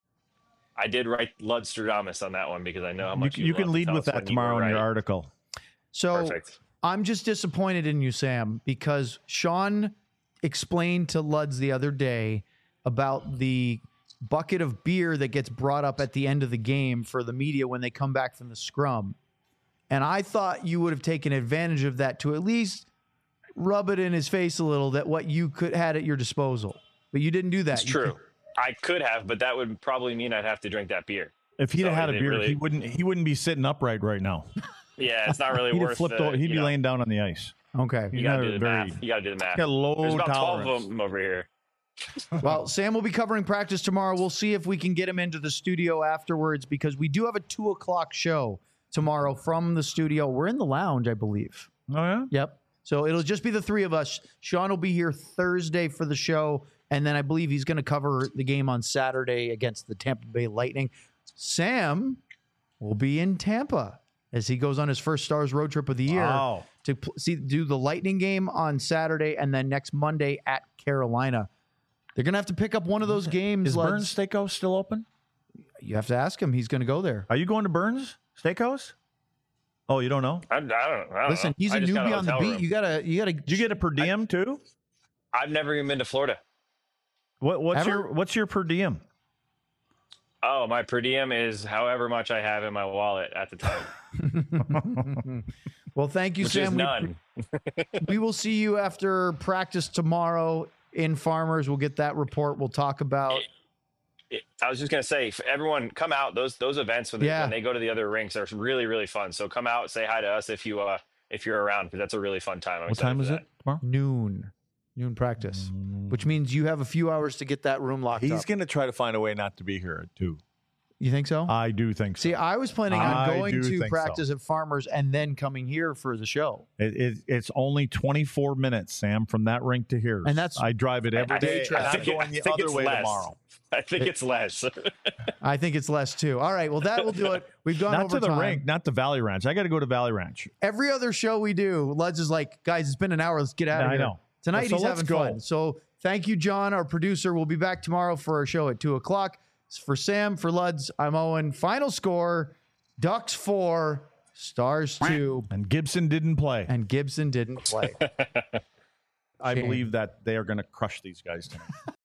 I did write Ludstradamus on that one because I know how You, much can- you, you can love to lead tell with us that when you tomorrow were in your right. article. So Perfect. I'm just disappointed in you, Sam, because Sean explained to Luds the other day about the bucket of beer that gets brought up at the end of the game for the media when they come back from the scrum. And I thought you would have taken advantage of that to at least rub it in his face a little that what you could had at your disposal. But you didn't do that. It's You true. I could have, but that would probably mean I'd have to drink that beer. If he'd So have had a it beer, really- he wouldn't he wouldn't be sitting upright right now. Yeah, it's not really He'd have worth. flipped. the, over, he'd you be know, laying down on the ice. Okay. You He's gotta not do the very- math. You gotta do the math. Got low There's about tolerance. twelve of them over here. Well, Sam will be covering practice tomorrow. We'll see if we can get him into the studio afterwards because we do have a two o'clock show tomorrow from the studio. We're in the lounge, I believe. Oh yeah. Yep. So it'll just be the three of us. Sean will be here Thursday for the show. And then I believe he's going to cover the game on Saturday against the Tampa Bay Lightning. Sam will be in Tampa as he goes on his first Stars road trip of the year Wow. to pl- see do the Lightning game on Saturday and then next Monday at Carolina. They're going to have to pick up one of those games. Is Luds. Burns Steakhouse still open? You have to ask him. He's going to go there. Are you going to Burns Steakhouse? Oh, you don't know? I, I don't. I don't Listen, know. he's I a just got newbie on the hotel beat. room. You gotta, you gotta. Did you get a per diem too? I've never even been to Florida. What, what's Ever? your what's your per diem? Oh, my per diem is however much I have in my wallet at the time, Well, thank you, which Sam. is We- none. We will see you after practice tomorrow in Farmers. We'll get that report. We'll talk about. It- I was just gonna say, for everyone, come out. Those those events when they, Yeah. when they go to the other rinks are really really fun. So come out, say hi to us if you uh if you're around because that's a really fun time. I'm What excited time for is that. it tomorrow? Noon, noon practice, which means you have a few hours to get that room locked He's up. going to try to find a way not to be here at two. You think so? I do think so. See, I was planning on I going do to think so. practice at Farmers and then coming here for the show. It, it, it's only twenty-four minutes, Sam, from that rink to here. And that's- I drive it every I- day. I and I'm think it- going I the think other it's way less. tomorrow. I think it's less. I think it's less too. All right, well that will do it. We've gone Not over to the time. rink, not the Valley Ranch. I got to go to Valley Ranch. Every other show we do, Luds is like, guys, it's been an hour. Let's get out Yeah, of I here. know. Tonight So he's let's having go. fun. So Thank you, John, our producer. We'll be back tomorrow for our show at two o'clock. For Sam, for Luds, I'm Owen. Final score, Ducks four, Stars two. And Gibson didn't play. And Gibson didn't play. I Shame. believe that they are going to crush these guys tonight.